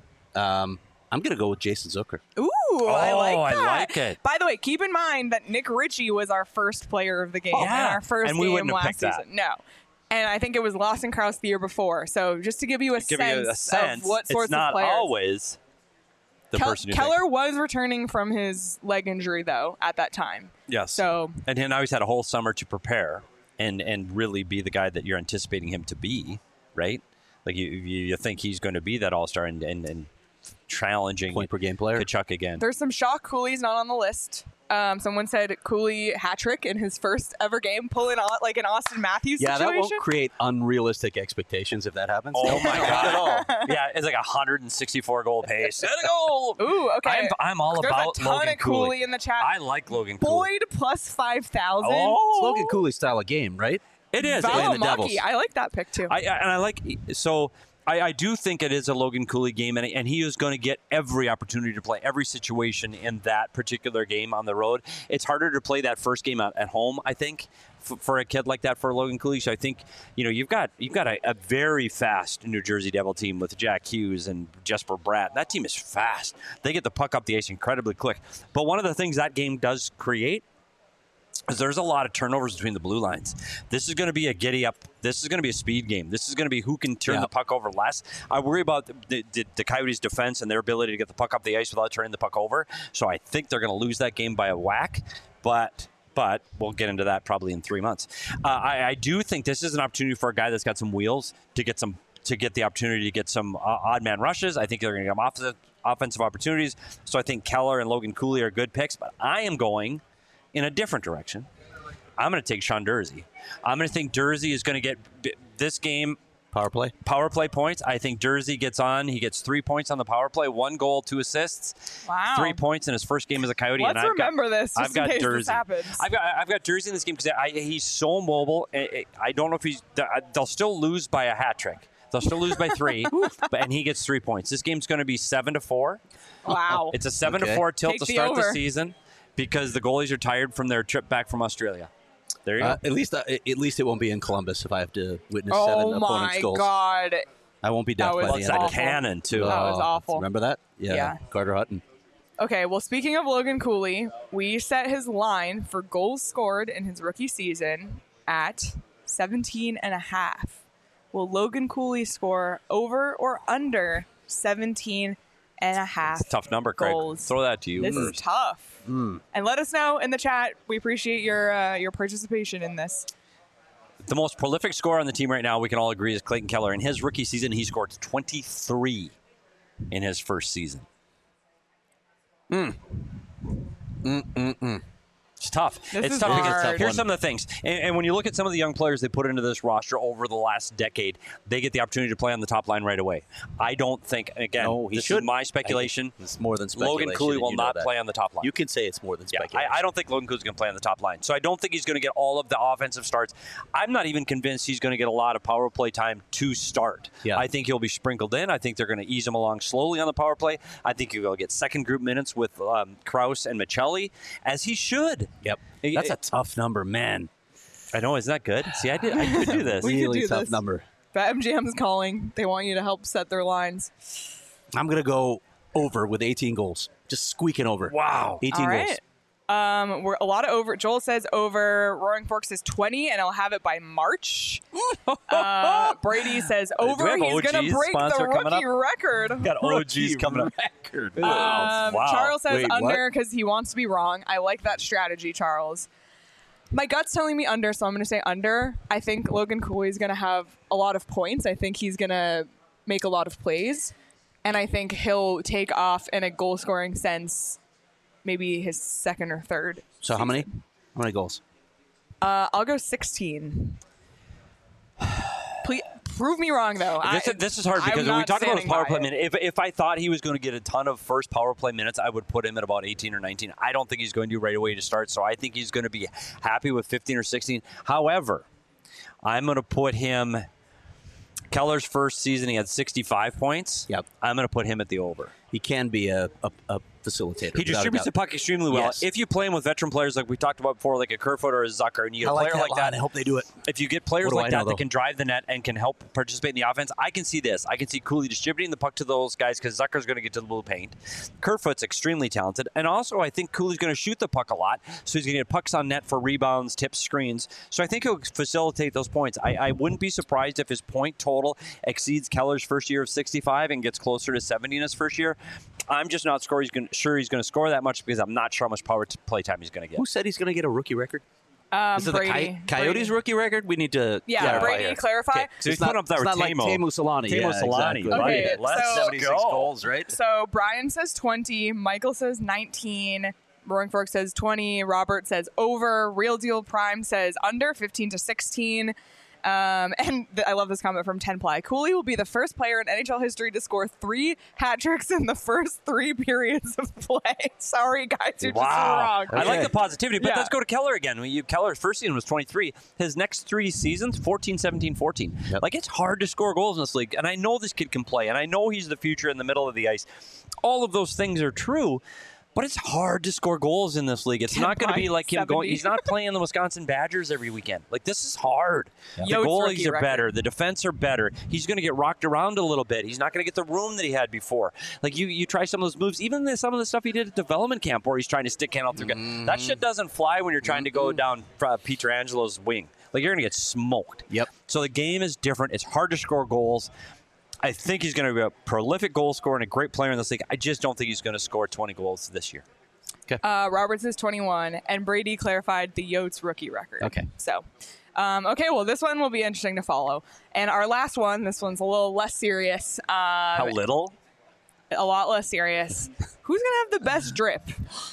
I'm going to go with Jason Zucker. Ooh, I like I that. like it. By the way, keep in mind that Nick Ritchie was our first player of the game in Yeah. our first And we game wouldn't have last picked that. season. No. And I think it was Lawson Krause the year before. So just to give you a sense of what sorts it's not of players. always the person you Keller think. was returning from his leg injury, though, at that time. Yes. So And now he's had a whole summer to prepare and really be the guy that you're anticipating him to be, right? Like you think he's going to be that all-star and challenging Point per game player. Kachuk again. there's some shock. Cooley's not on the list. Someone said Cooley hat trick in his first ever game, pulling out like an Austin Matthews Yeah, that situation. won't create unrealistic expectations if that happens. Oh my Not at all. god! Yeah, it's like 164 goal pace. Let it go. Ooh, okay. I'm all There's about a ton Logan of Cooley in the chat. I like Logan Cooley. Boyd plus 5,000. Oh, Logan Cooley style of game, right? it is. playing the Devils. Valimaki. I like that pick too. I like so. I do think it is a Logan Cooley game, and he is going to get every opportunity to play every situation in that particular game on the road. It's harder to play that first game at home, I think, for a kid like that, for Logan Cooley. So I think you've got a very fast New Jersey Devil team with Jack Hughes and Jesper Bratt. That team is fast. They get the puck up the ice incredibly quick. But one of the things that game does create is there's a lot of turnovers between the blue lines. This is going to be a giddy up. This is going to be a speed game. This is going to be who can turn the puck over less. I worry about the Coyotes' defense and their ability to get the puck up the ice without turning the puck over. So I think they're going to lose that game by a whack. But we'll get into that probably in 3 months. I do think this is an opportunity for a guy that's got some wheels to get the opportunity to get some odd man rushes. I think they're going to get some offensive opportunities. So I think Keller and Logan Cooley are good picks. But I am going in a different direction. I'm going to take Sean Dursey. I'm going to think Dursey is going to get this game Power play points. I think Dursey gets on. He gets 3 points on the power play, 1 goal, 2 assists, Wow. 3 points in his first game as a Coyote. Let's and remember this just I've got in case Dursey. this happens. I've got Dursey in this game because he's so mobile. I don't know if they'll still lose by a hat trick. They'll still lose by 3, and he gets 3 points. This game's going to be 7-4. Wow. It's a 7-4 tilt Take to the start the over. season because the goalies are tired from their trip back from Australia. There you go. At least it won't be in Columbus if I have to witness 7 Oh opponents' my goals. God. I won't be That deaf was by Well, the it's end that of it. awful. cannon, too. That was awful. Remember that? Yeah. Carter Hutton. Okay, well, speaking of Logan Cooley, we set his line for goals scored in his rookie season at 17.5. Will Logan Cooley score over or under 17.5? Tough number, Craig. goals. Throw that to you This first. is tough. And let us know in the chat. We appreciate your participation in this. The most prolific scorer on the team right now, we can all agree, is Clayton Keller. In his rookie season, he scored 23 in his first season. It's tough. This It's is tough because hard. here's some of the things. And when you look at some of the young players they put into this roster over the last decade, they get the opportunity to play on the top line right away. I don't think, again, No, he this should. is my speculation. It's more than speculation. Logan Cooley and will you know not that. play on the top line. You can say it's more than Yeah, speculation. I don't think Logan Cooley's going to play on the top line. So I don't think he's going to get all of the offensive starts. I'm not even convinced he's going to get a lot of power play time to start. Yeah. I think he'll be sprinkled in. I think they're going to ease him along slowly on the power play. I think he'll get second group minutes with Krause and Michelli, as he should. Yep. That's a tough number, man. I know, isn't that good? See, I could do this. We could Really do tough this. number. BetMGM's calling. They want you to help set their lines. I'm going to go over with 18 goals. Just squeaking over. Wow. 18 All goals. right. We're a lot of over. Joel says over. Roaring Fork says 20, and I'll have it by March. Brady says over. have He's going to OG's break the sponsor coming rookie record. Got OGs coming up. Wow. Charles says Wait, what? under because he wants to be wrong. I like that strategy, Charles. My gut's telling me under, so I'm going to say under. I think Logan Cooley is going to have a lot of points. I think he's going to make a lot of plays. And I think he'll take off in a goal-scoring sense, maybe his second or third. So season. how many? How many goals? I'll go 16. Please prove me wrong, though. This is hard I'm because when we not talk about his standing power by play it. minute, if I thought he was going to get a ton of first power play minutes, I would put him at about 18 or 19. I don't think he's going to right away to start, so I think he's going to be happy with 15 or 16. However, I'm going to put him. Keller's first season, he had 65 points. Yep. I'm going to put him at the over. He can be a facilitator. He distributes the puck extremely well. Yes. If you play him with veteran players like we talked about before, like a Kerfoot or a Zucker, and you get a player like that, I hope they do it. if you get players What do I like know, that though? that can drive the net and can help participate in the offense, I can see this. I can see Cooley distributing the puck to those guys because Zucker's going to get to the blue paint. Kerfoot's extremely talented. And also, I think Cooley's going to shoot the puck a lot, so he's going to get pucks on net for rebounds, tips, screens. So I think he'll facilitate those points. I wouldn't be surprised if his point total exceeds Keller's first year of 65 and gets closer to 70 in his first year. I'm just not sure he's going to score that much because I'm not sure how much power play time he's going to get. Who said he's going to get a rookie record? Is it Brady. the Coyotes rookie record? We need to Yeah, Brady, here. clarify. Okay. So he's It's not- putting up that it's with not like Teemu. Teemu Solani. Teemu Yeah, Solani. exactly. Okay, Right. Let's so- 76 goals, right? So Brian says 20, Michael says 19, Roaring Fork says 20, Robert says over, Real Deal Prime says under 15 to 16. I love this comment from Tenply. Cooley will be the first player in NHL history to score 3 hat tricks in the first 3 periods of play. Sorry, guys, you're just wrong. I like the positivity, but Yeah. let's go to Keller again. Keller's first season was 23. His next 3 seasons, 14, 17, 14. Yep. Like, it's hard to score goals in this league, and I know this kid can play, and I know he's the future in the middle of the ice. All of those things are true. But it's hard to score goals in this league. It's not going to be like him 70. going. He's not playing the Wisconsin Badgers every weekend. Like, this is hard. The Yotes goalies rookie are record. better. The defense are better. He's going to get rocked around a little bit. He's not going to get the room that he had before. Like, you try some of those moves, even some of the stuff he did at development camp where he's trying to stick hand out through. That shit doesn't fly when you're trying to go down Pietrangelo's wing. Like, you're going to get smoked. Yep. So the game is different. It's hard to score goals. I think he's going to be a prolific goal scorer and a great player in this league. I just don't think he's going to score 20 goals this year. Robert says 21, and Brady clarified the Yotes rookie record. Okay. So, okay, well, this one will be interesting to follow. And our last one, this one's a little less serious. How little? A lot less serious. Who's going to have the best drip?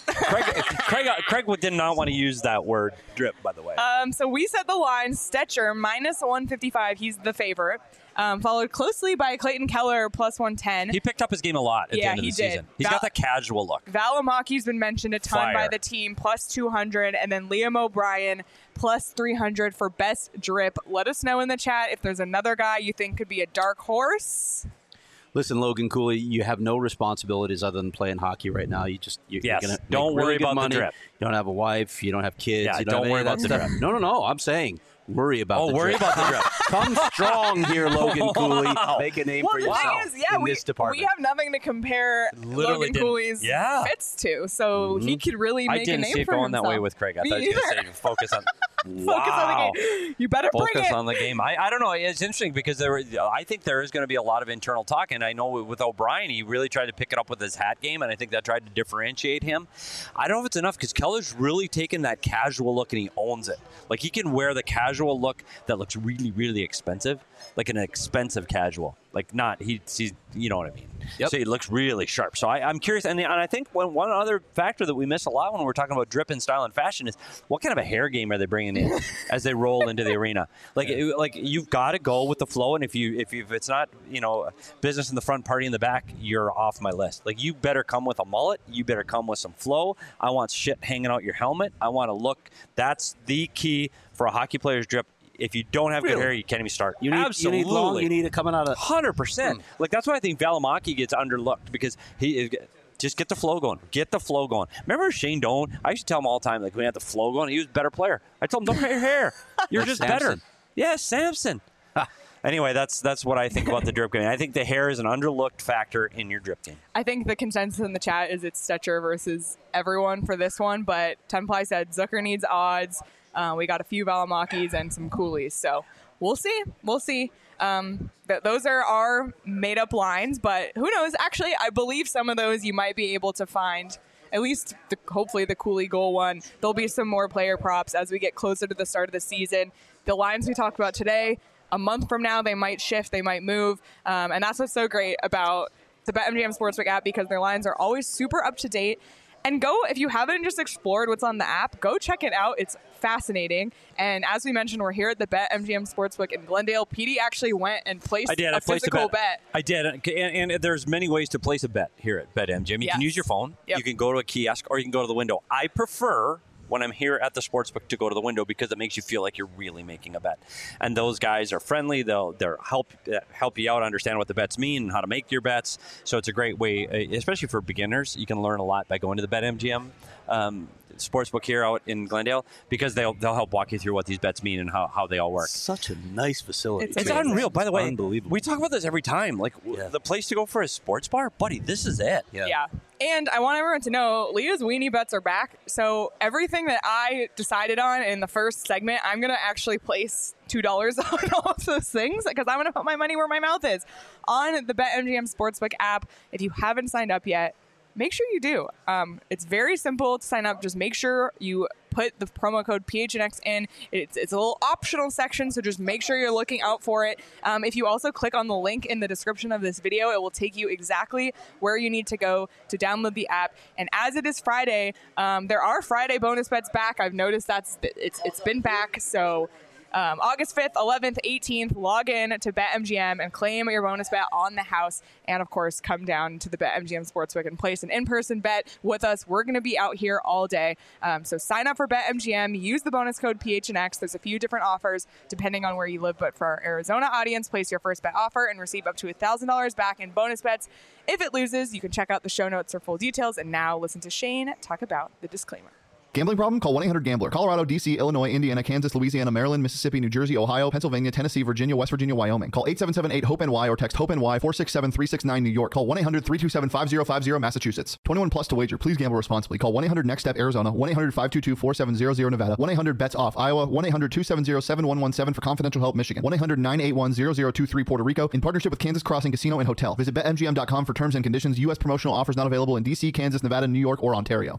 Craig did not want to use that word drip, by the way. So we set the line, Stetcher, minus 155. He's the favorite. Followed closely by Clayton Keller, plus 110. He picked up his game a lot at the Yeah, end of he the did. season. He's got that casual look. Valimaki's been mentioned a ton by Fire. the team, plus 200. And then Liam O'Brien, plus 300 for best drip. Let us know in the chat if there's another guy you think could be a dark horse. Listen, Logan Cooley, you have no responsibilities other than playing hockey right now. You're Yes. gonna Don't make really worry good about the money. drip. You don't have a wife. You don't have kids. Yeah, you don't have worry any of about the that stuff. drip. No. I'm saying worry about Oh, the worry drip. about the drip. Come strong here, Logan Cooley. Make a name Well, for the yourself thing is, yeah, in we, this department. we have nothing to compare Literally Logan didn't- Cooley's Yeah. fits to, so he could really I make a didn't name see it for going himself. that way with Craig. I Me thought you were either. going to say focus on. Focus on the game. You better bring Focus it. on the game. I don't know. It's interesting because I think there is going to be a lot of internal talk, and I know with O'Brien, he really tried to pick it up with his hat game, and I think that tried to differentiate him. I don't know if it's enough because Keller's really taken that casual look and he owns it. Like, he can wear the casual look that looks really, really expensive, like an expensive casual. Like, not he's you know what I mean. Yep. So he looks really sharp. So I'm curious, and I think one other factor that we miss a lot when we're talking about drip and style and fashion is what kind of a hair game are they bringing in as they roll into the arena? Like you've got to go with the flow, and if it's not business in the front, party in the back, you're off my list. Like, you better come with a mullet, you better come with some flow. I want shit hanging out your helmet. I want to look. That's the key for a hockey player's drip. If you don't have good Really? hair, you can't even start. You need long. You need it coming out of 100%. Like, that's why I think Valimaki gets underlooked because he just get the flow going. Get the flow going. Remember Shane Doan? I used to tell him all the time, like, when he had the flow going, he was a better player. I told him, don't cut your hair. You're just better. Samson. Yeah, Samson. Anyway, that's what I think about the drip game. I think the hair is an underlooked factor in your drip game. I think the consensus in the chat is it's Stetcher versus everyone for this one, but Tenply said Zucker needs odds. We got a few Valimakis and some Coolies, so we'll see. We'll see. Those are our made-up lines, but who knows? Actually, I believe some of those you might be able to find at least hopefully the Cooley goal one. There'll be some more player props as we get closer to the start of the season. The lines we talked about today, a month from now, they might shift, they might move. And that's what's so great about the BetMGM Sportsbook app, because their lines are always super up to date. And go, if you haven't just explored what's on the app, go check it out. It's fascinating. And as we mentioned, we're here at the BetMGM Sportsbook in Glendale. PD actually went and placed a physical bet. I did. And there's many ways to place a bet here at BetMGM. You can use your phone. Yep. You can go to a kiosk, or you can go to the window. I prefer, when I'm here at the sportsbook, to go to the window, because it makes you feel like you're really making a bet. And those guys are friendly. They'll help you out, understand what the bets mean and how to make your bets. So it's a great way, especially for beginners. You can learn a lot by going to the BetMGM sportsbook here out in Glendale, because they'll help walk you through what these bets mean and how they all work. Such a nice facility. It's It's amazing. unreal. By the way, Unbelievable. we talk about this every time. Like, the place to go for a sports bar, buddy, this is it. Yeah. And I want everyone to know, Leah's Weenie Bets are back. So everything that I decided on in the first segment, I'm going to actually place $2 on all of those things, because I'm going to put my money where my mouth is. On the BetMGM Sportsbook app, if you haven't signed up yet, make sure you do. It's very simple to sign up. Just make sure you put the promo code PHNX in. It's a little optional section, so just make sure you're looking out for it. If you also click on the link in the description of this video, it will take you exactly where you need to go to download the app. And as it is Friday, there are Friday bonus bets back. I've noticed it's been back. So August 5th, 11th, 18th, log in to BetMGM and claim your bonus bet on the house. And, of course, come down to the BetMGM Sportsbook and place an in-person bet with us. We're going to be out here all day. So sign up for BetMGM. Use the bonus code PHNX. There's a few different offers depending on where you live. But for our Arizona audience, place your first bet offer and receive up to $1,000 back in bonus bets. If it loses, you can check out the show notes for full details. And now listen to Shane talk about the disclaimer. Gambling problem? Call 1-800-GAMBLER. Colorado, D.C., Illinois, Indiana, Kansas, Louisiana, Maryland, Mississippi, New Jersey, Ohio, Pennsylvania, Tennessee, Virginia, West Virginia, Wyoming. Call 877-8-HOPE-NY or text HOPE-NY 467-369 New York. Call 1-800-327-5050 Massachusetts. 21 plus to wager. Please gamble responsibly. Call 1-800-NEXT-STEP Arizona. 1-800-522-4700 Nevada. 1-800-BETS-OFF Iowa. 1-800-270-7117 for confidential help Michigan. 1-800-981-0023 Puerto Rico. In partnership with Kansas Crossing Casino and Hotel. Visit BetMGM.com for terms and conditions. U.S. promotional offers not available in D.C., Kansas, Nevada, New York, or Ontario.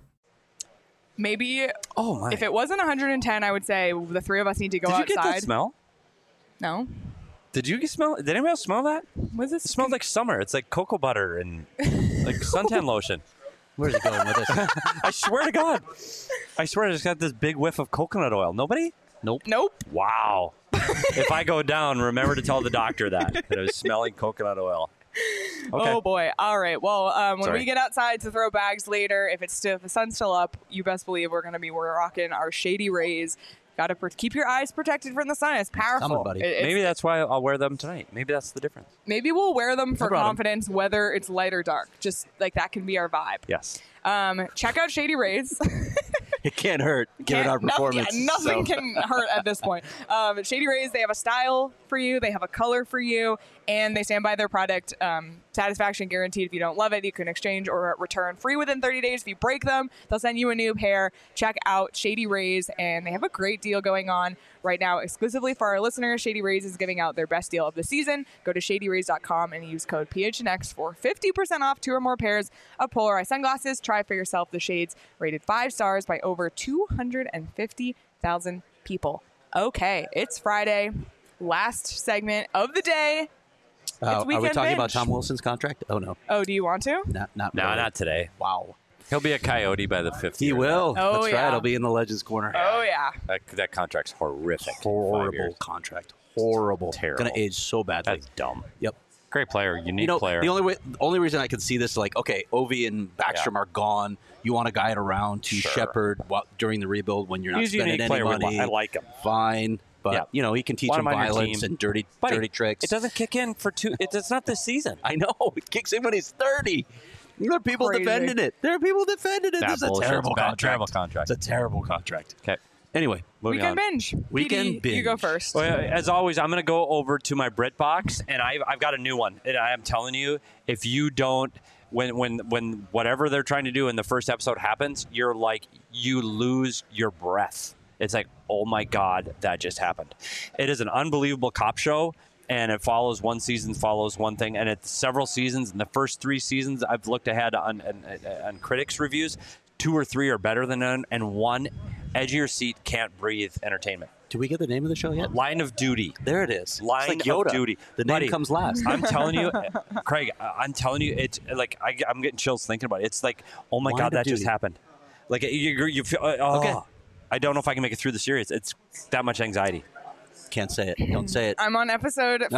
Maybe Oh, my. if it wasn't 110, I would say the three of us need to go Did you outside. get that smell? No. Did anyone else smell that? Was this? It smells like summer. It's like cocoa butter and like suntan lotion. Where's he going with this? I swear to God. I swear I just got this big whiff of coconut oil. Nobody? Nope. Nope. Wow. If I go down, remember to tell the doctor that I was smelling coconut oil. Okay. Oh boy! All right. Well, when Sorry. we get outside to throw bags later, if the sun's still up, you best believe we're rocking our Shady Rays. Got to keep your eyes protected from the sun. It's powerful. Coming, buddy. Maybe that's why I'll wear them tonight. Maybe that's the difference. Maybe we'll wear them for brought 'em. confidence, whether it's light or dark. Just like that can be our vibe. Yes. Check out Shady Rays. It can't hurt given our performance. Nothing so. can hurt at this point. Shady Rays, they have a style for you, they have a color for you, and they stand by their product. Satisfaction guaranteed. If you don't love it, you can exchange or return free within 30 days. If you break them, they'll send you a new pair. Check out Shady Rays, and they have a great deal going on right now exclusively for our listeners. Shady Rays is giving out their best deal of the season. Go to shadyrays.com and use code PHNX for 50% off 2 or more pairs of polarized sunglasses. Try for yourself the shades rated 5 stars by over 250,000 people. Okay, it's Friday. Last segment of the day. Are we Weekend talking Binge. about Tom Wilson's contract? Oh, no. Oh, do you want to? Not No, really. not today. Wow. He'll be a Coyote by the 5th He year. will. Oh, That's yeah. right. I'll be in the Legends Corner. Oh, yeah. That contract's horrific. 5 Horrible years. contract. Horrible. Terrible. Going to age so badly. That's dumb. Yep. Great player. Unique player. The only reason I can see this, like, okay, Ovi and Backstrom are gone. You want a guy around to Sure. shepherd during the rebuild when you're not He's a spending unique any player. money. I like him. Fine. But, Yeah. he can teach Want him him on your violence team. and dirty Buddy, tricks. It doesn't kick in for 2. It's not this season. I know. It kicks in when he's 30. There are people Crazy. defending it. This Nah, is a bullshit. terrible It's a bad, contract. terrible contract. It's a terrible contract. Okay. Anyway, Moving Weekend on. binge. Weekend PD, you go binge. first. Well, as always, I'm going to go over to my Brit box, and I've got a new one. And I am telling you, if you don't, when whatever they're trying to do in the first episode happens, you're like, you lose your breath. It's like, oh my God, that just happened. It is an unbelievable cop show, and it follows one season, follows one thing, and it's several seasons. In the first 3 seasons, I've looked ahead on critics' reviews. 2 or 3 are better than none, and 1 edge of your seat, can't breathe entertainment. Do we get the name of the show yet? Line of Duty. There it is. Line it's like Yoda. of Duty. The name Buddy, comes last. I'm telling you, Craig, I'm telling you, it's like I'm getting chills thinking about it. It's like, oh my Line God, of that just Duty. happened. Like you feel, oh, Okay. I don't know if I can make it through the series. It's that much anxiety. Can't say it. Don't say it. I'm on episode 55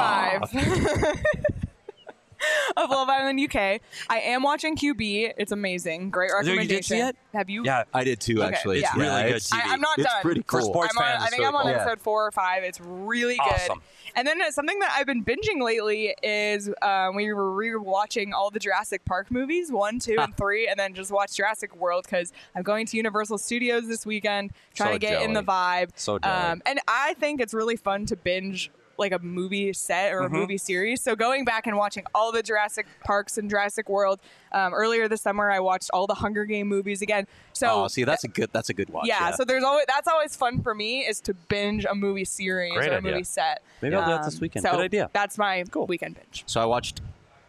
of Love Island UK. I am watching QB. It's amazing. Great You recommendation. did see it? Have you? Yeah, I did too, Okay, actually. yeah. It's really good it's- TV. I'm not It's done. pretty For cool. sports I'm on, fans, I it's think really I'm on cool. episode 4 or 5. It's really good. Awesome. And then something that I've been binging lately is we were rewatching all the Jurassic Park movies, 1, 2, and 3, and then just watch Jurassic World because I'm going to Universal Studios this weekend, trying So to get in the jelly. vibe. So jelly. And I think it's really fun to binge like a movie set or a movie series. So going back and watching all the Jurassic Parks and Jurassic World. Earlier this summer, I watched all the Hunger Game movies again. So see, that's a good watch. yeah, so that's always fun for me is to binge a movie series Great or a idea. movie set. Maybe I'll do that this weekend. So Good idea. That's my weekend binge. So I watched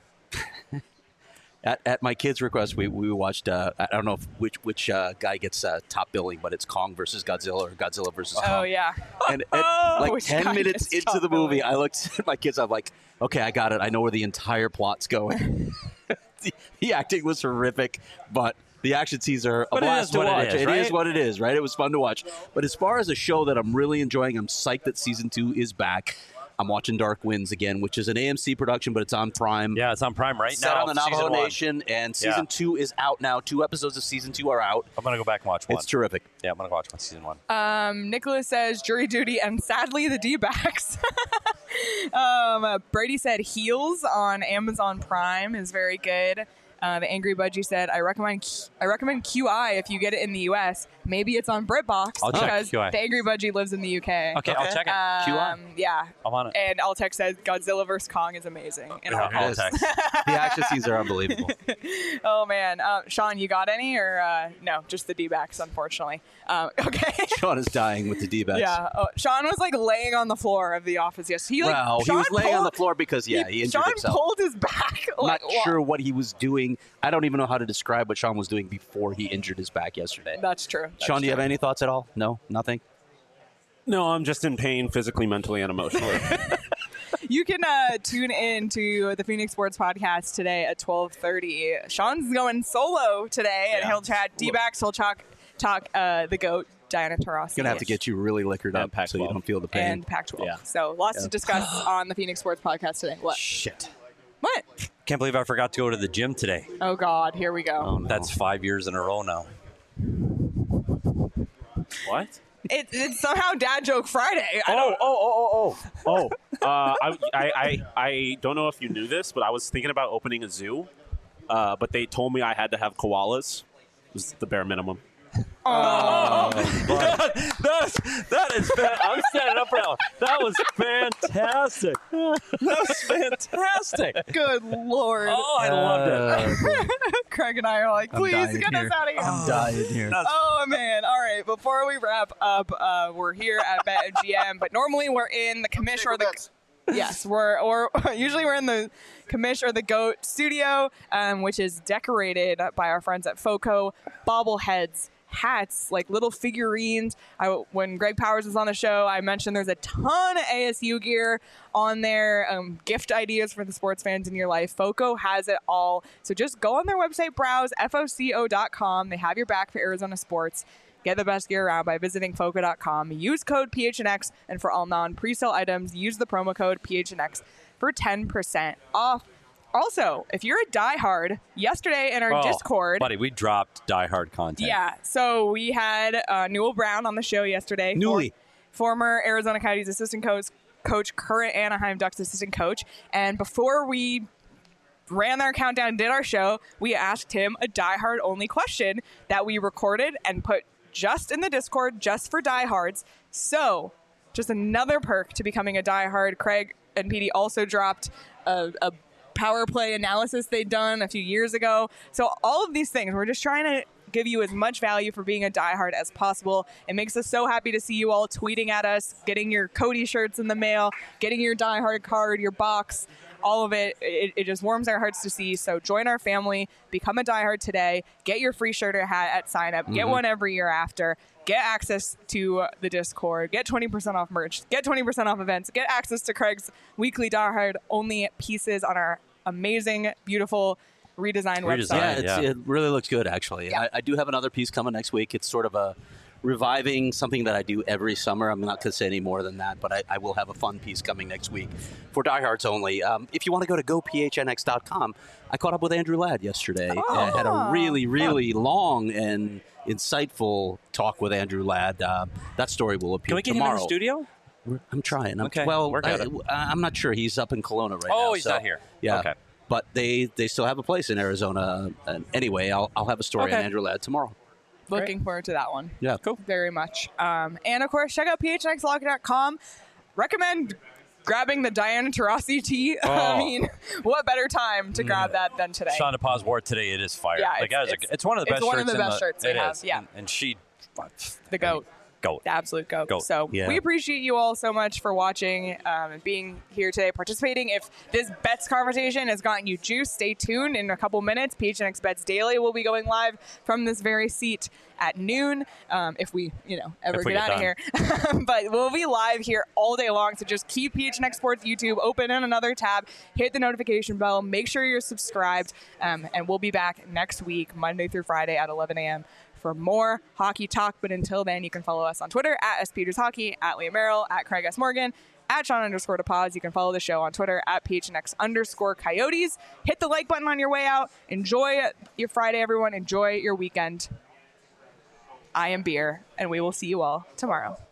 at my kids' request. We watched. I don't know which guy gets top billing, but it's Kong versus Godzilla or Godzilla versus Kong. Oh yeah. And like Which 10 guy minutes gets into the top billing? movie, I looked at my kids. I'm like, okay, I got it. I know where the entire plot's going. The acting was horrific, but the action scenes are a But it blast is to what it watch. is, It right? is what it is, right? It was fun to watch. But as far as a show that I'm really enjoying, I'm psyched that season 2 is back. I'm watching Dark Winds again, which is an AMC production, but it's on Prime. Yeah, it's on Prime right Set now. on the Navajo season 1. Nation, and season Yeah. 2 is out now. 2 episodes of season 2 are out. I'm gonna go back and watch 1. It's terrific. Yeah, I'm gonna watch season 1. Nicholas says jury duty and sadly the D-backs. Brady said Heels on Amazon Prime is very good. The Angry Budgie said, I recommend QI if you get it in the U.S. Maybe it's on BritBox I'll check because QI. the Angry Budgie lives in the UK. Okay, I'll check it. Yeah. I'm on it. And Altec says Godzilla vs. Kong is amazing. And Yeah, I'll- I'll text. The action scenes are unbelievable. oh, man. Sean, you got any? Or no, just the D-backs, unfortunately. Okay. Sean is dying with the D-backs. Yeah. Oh, Sean was like laying on the floor of the office yesterday. Well, he was Sean laying on the pulled- floor because, he injured Sean himself. pulled his back. I'm not like, sure what he was doing. I don't even know how to describe what Sean was doing before he injured his back yesterday. That's true. That's Sean, do you true. have any thoughts at all? No? Nothing? No, I'm just in pain physically, mentally, and emotionally. You can tune in to the Phoenix Sports Podcast today at 12:30. Sean's going solo today, and Yeah. he'll chat D-backs. He'll talk the GOAT, Diana Taurasi. Gonna have to get you really liquored And up so Pac-12. you don't feel the pain. and Pac-12. Yeah. So lots to discuss on the Phoenix Sports Podcast today. What? Shit. What? Can't believe I forgot to go to the gym today. Oh God, here we go. Oh, no. That's 5 years in a row now. What? It's somehow Dad Joke Friday. I don't know if you knew this, but I was thinking about opening a zoo, but they told me I had to have koalas. It was the bare minimum. That is. I'm standing up for that one. That was fantastic. That was fantastic. Good Lord. Oh, I loved it. Craig and I are like, I'm please dying get here. us out of here. I'm dying here. Oh man! All right. Before we wrap up, we're here at BetMGM, but normally we're in the commish or the Bets. yes, usually we're in the commish or the GOAT studio, which is decorated by our friends at FOCO. Bobbleheads, hats, like little figurines. When Greg Powers was on the show, I mentioned there's a ton of ASU gear on there, gift ideas for the sports fans in your life. FOCO has it all. So just go on their website, browse, FOCO.com. They have your back for Arizona sports. Get the best gear around by visiting FOCO.com. Use code PHNX, and for all non-presale items, use the promo code PHNX for 10% off. Also, if you're a diehard, yesterday in our Discord, buddy, we dropped Die Hard content. yeah, so we had Newell Brown on the show yesterday. Newly. Former Arizona Coyotes assistant coach, current Anaheim Ducks assistant coach. And before we ran our countdown, did our show, we asked him a diehard only question that we recorded and put just in the Discord, just for diehards. So, just another perk to becoming a diehard. Craig and PD also dropped a power play analysis they'd done a few years ago. So all of these things, we're just trying to give you as much value for being a diehard as possible. It makes us so happy to see you all tweeting at us, getting your Cody shirts in the mail, getting your diehard card, your box, all of it. It just warms our hearts to see. So join our family, become a diehard today, get your free shirt or hat at sign up, get one every year after, get access to the Discord, get 20% off merch, get 20% off events, get access to Craig's weekly diehard only pieces on our amazing, beautiful redesigned website. Yeah, it really looks good, actually. Yeah. I do have another piece coming next week. It's sort of a reviving something that I do every summer. I'm not going to say any more than that, but I will have a fun piece coming next week for diehards only. If you want to go to gophnx.com, I caught up with Andrew Ladd yesterday and had a really, really long and insightful talk with Andrew Ladd. That story will appear Can we get tomorrow. him in the studio? I'm trying. Okay, Well, work at it. I'm not sure. He's up in Kelowna right now. Oh, he's so, not here. Yeah. Okay. But they still have a place in Arizona. And anyway, I'll have a story on Andrew Ladd tomorrow. Looking forward to that one. Yeah. Cool. Very much. And of course, check out phnxlocker.com. Recommend grabbing the Diana Taurasi tee. I mean, what better time to grab that than today? Shonda Paz wore it today. It is fire. Yeah, it's one of the best shirts. It's one of the best shirts we have. Yeah. And she, The GOAT. GOAT. The absolute GOAT. GOAT. So Yeah. we appreciate you all so much for watching and being here today, participating. If this bets conversation has gotten you juice, stay tuned. In a couple minutes, PHNX Bets Daily will be going live from this very seat at noon. If we, ever If we get get out of here. But we'll be live here all day long. So just keep PHNX Sports YouTube open in another tab. Hit the notification bell. Make sure you're subscribed. And we'll be back next week, Monday through Friday at 11 a.m. for more hockey talk. But until then, you can follow us on Twitter at SPetersHockey, at Liam Merrill, at Craig S. Morgan, at Sean_DePaz. You can follow the show on Twitter at PHNX_Coyotes. Hit the like button on your way out. Enjoy your Friday, everyone. Enjoy your weekend. I am Beer, and we will see you all tomorrow.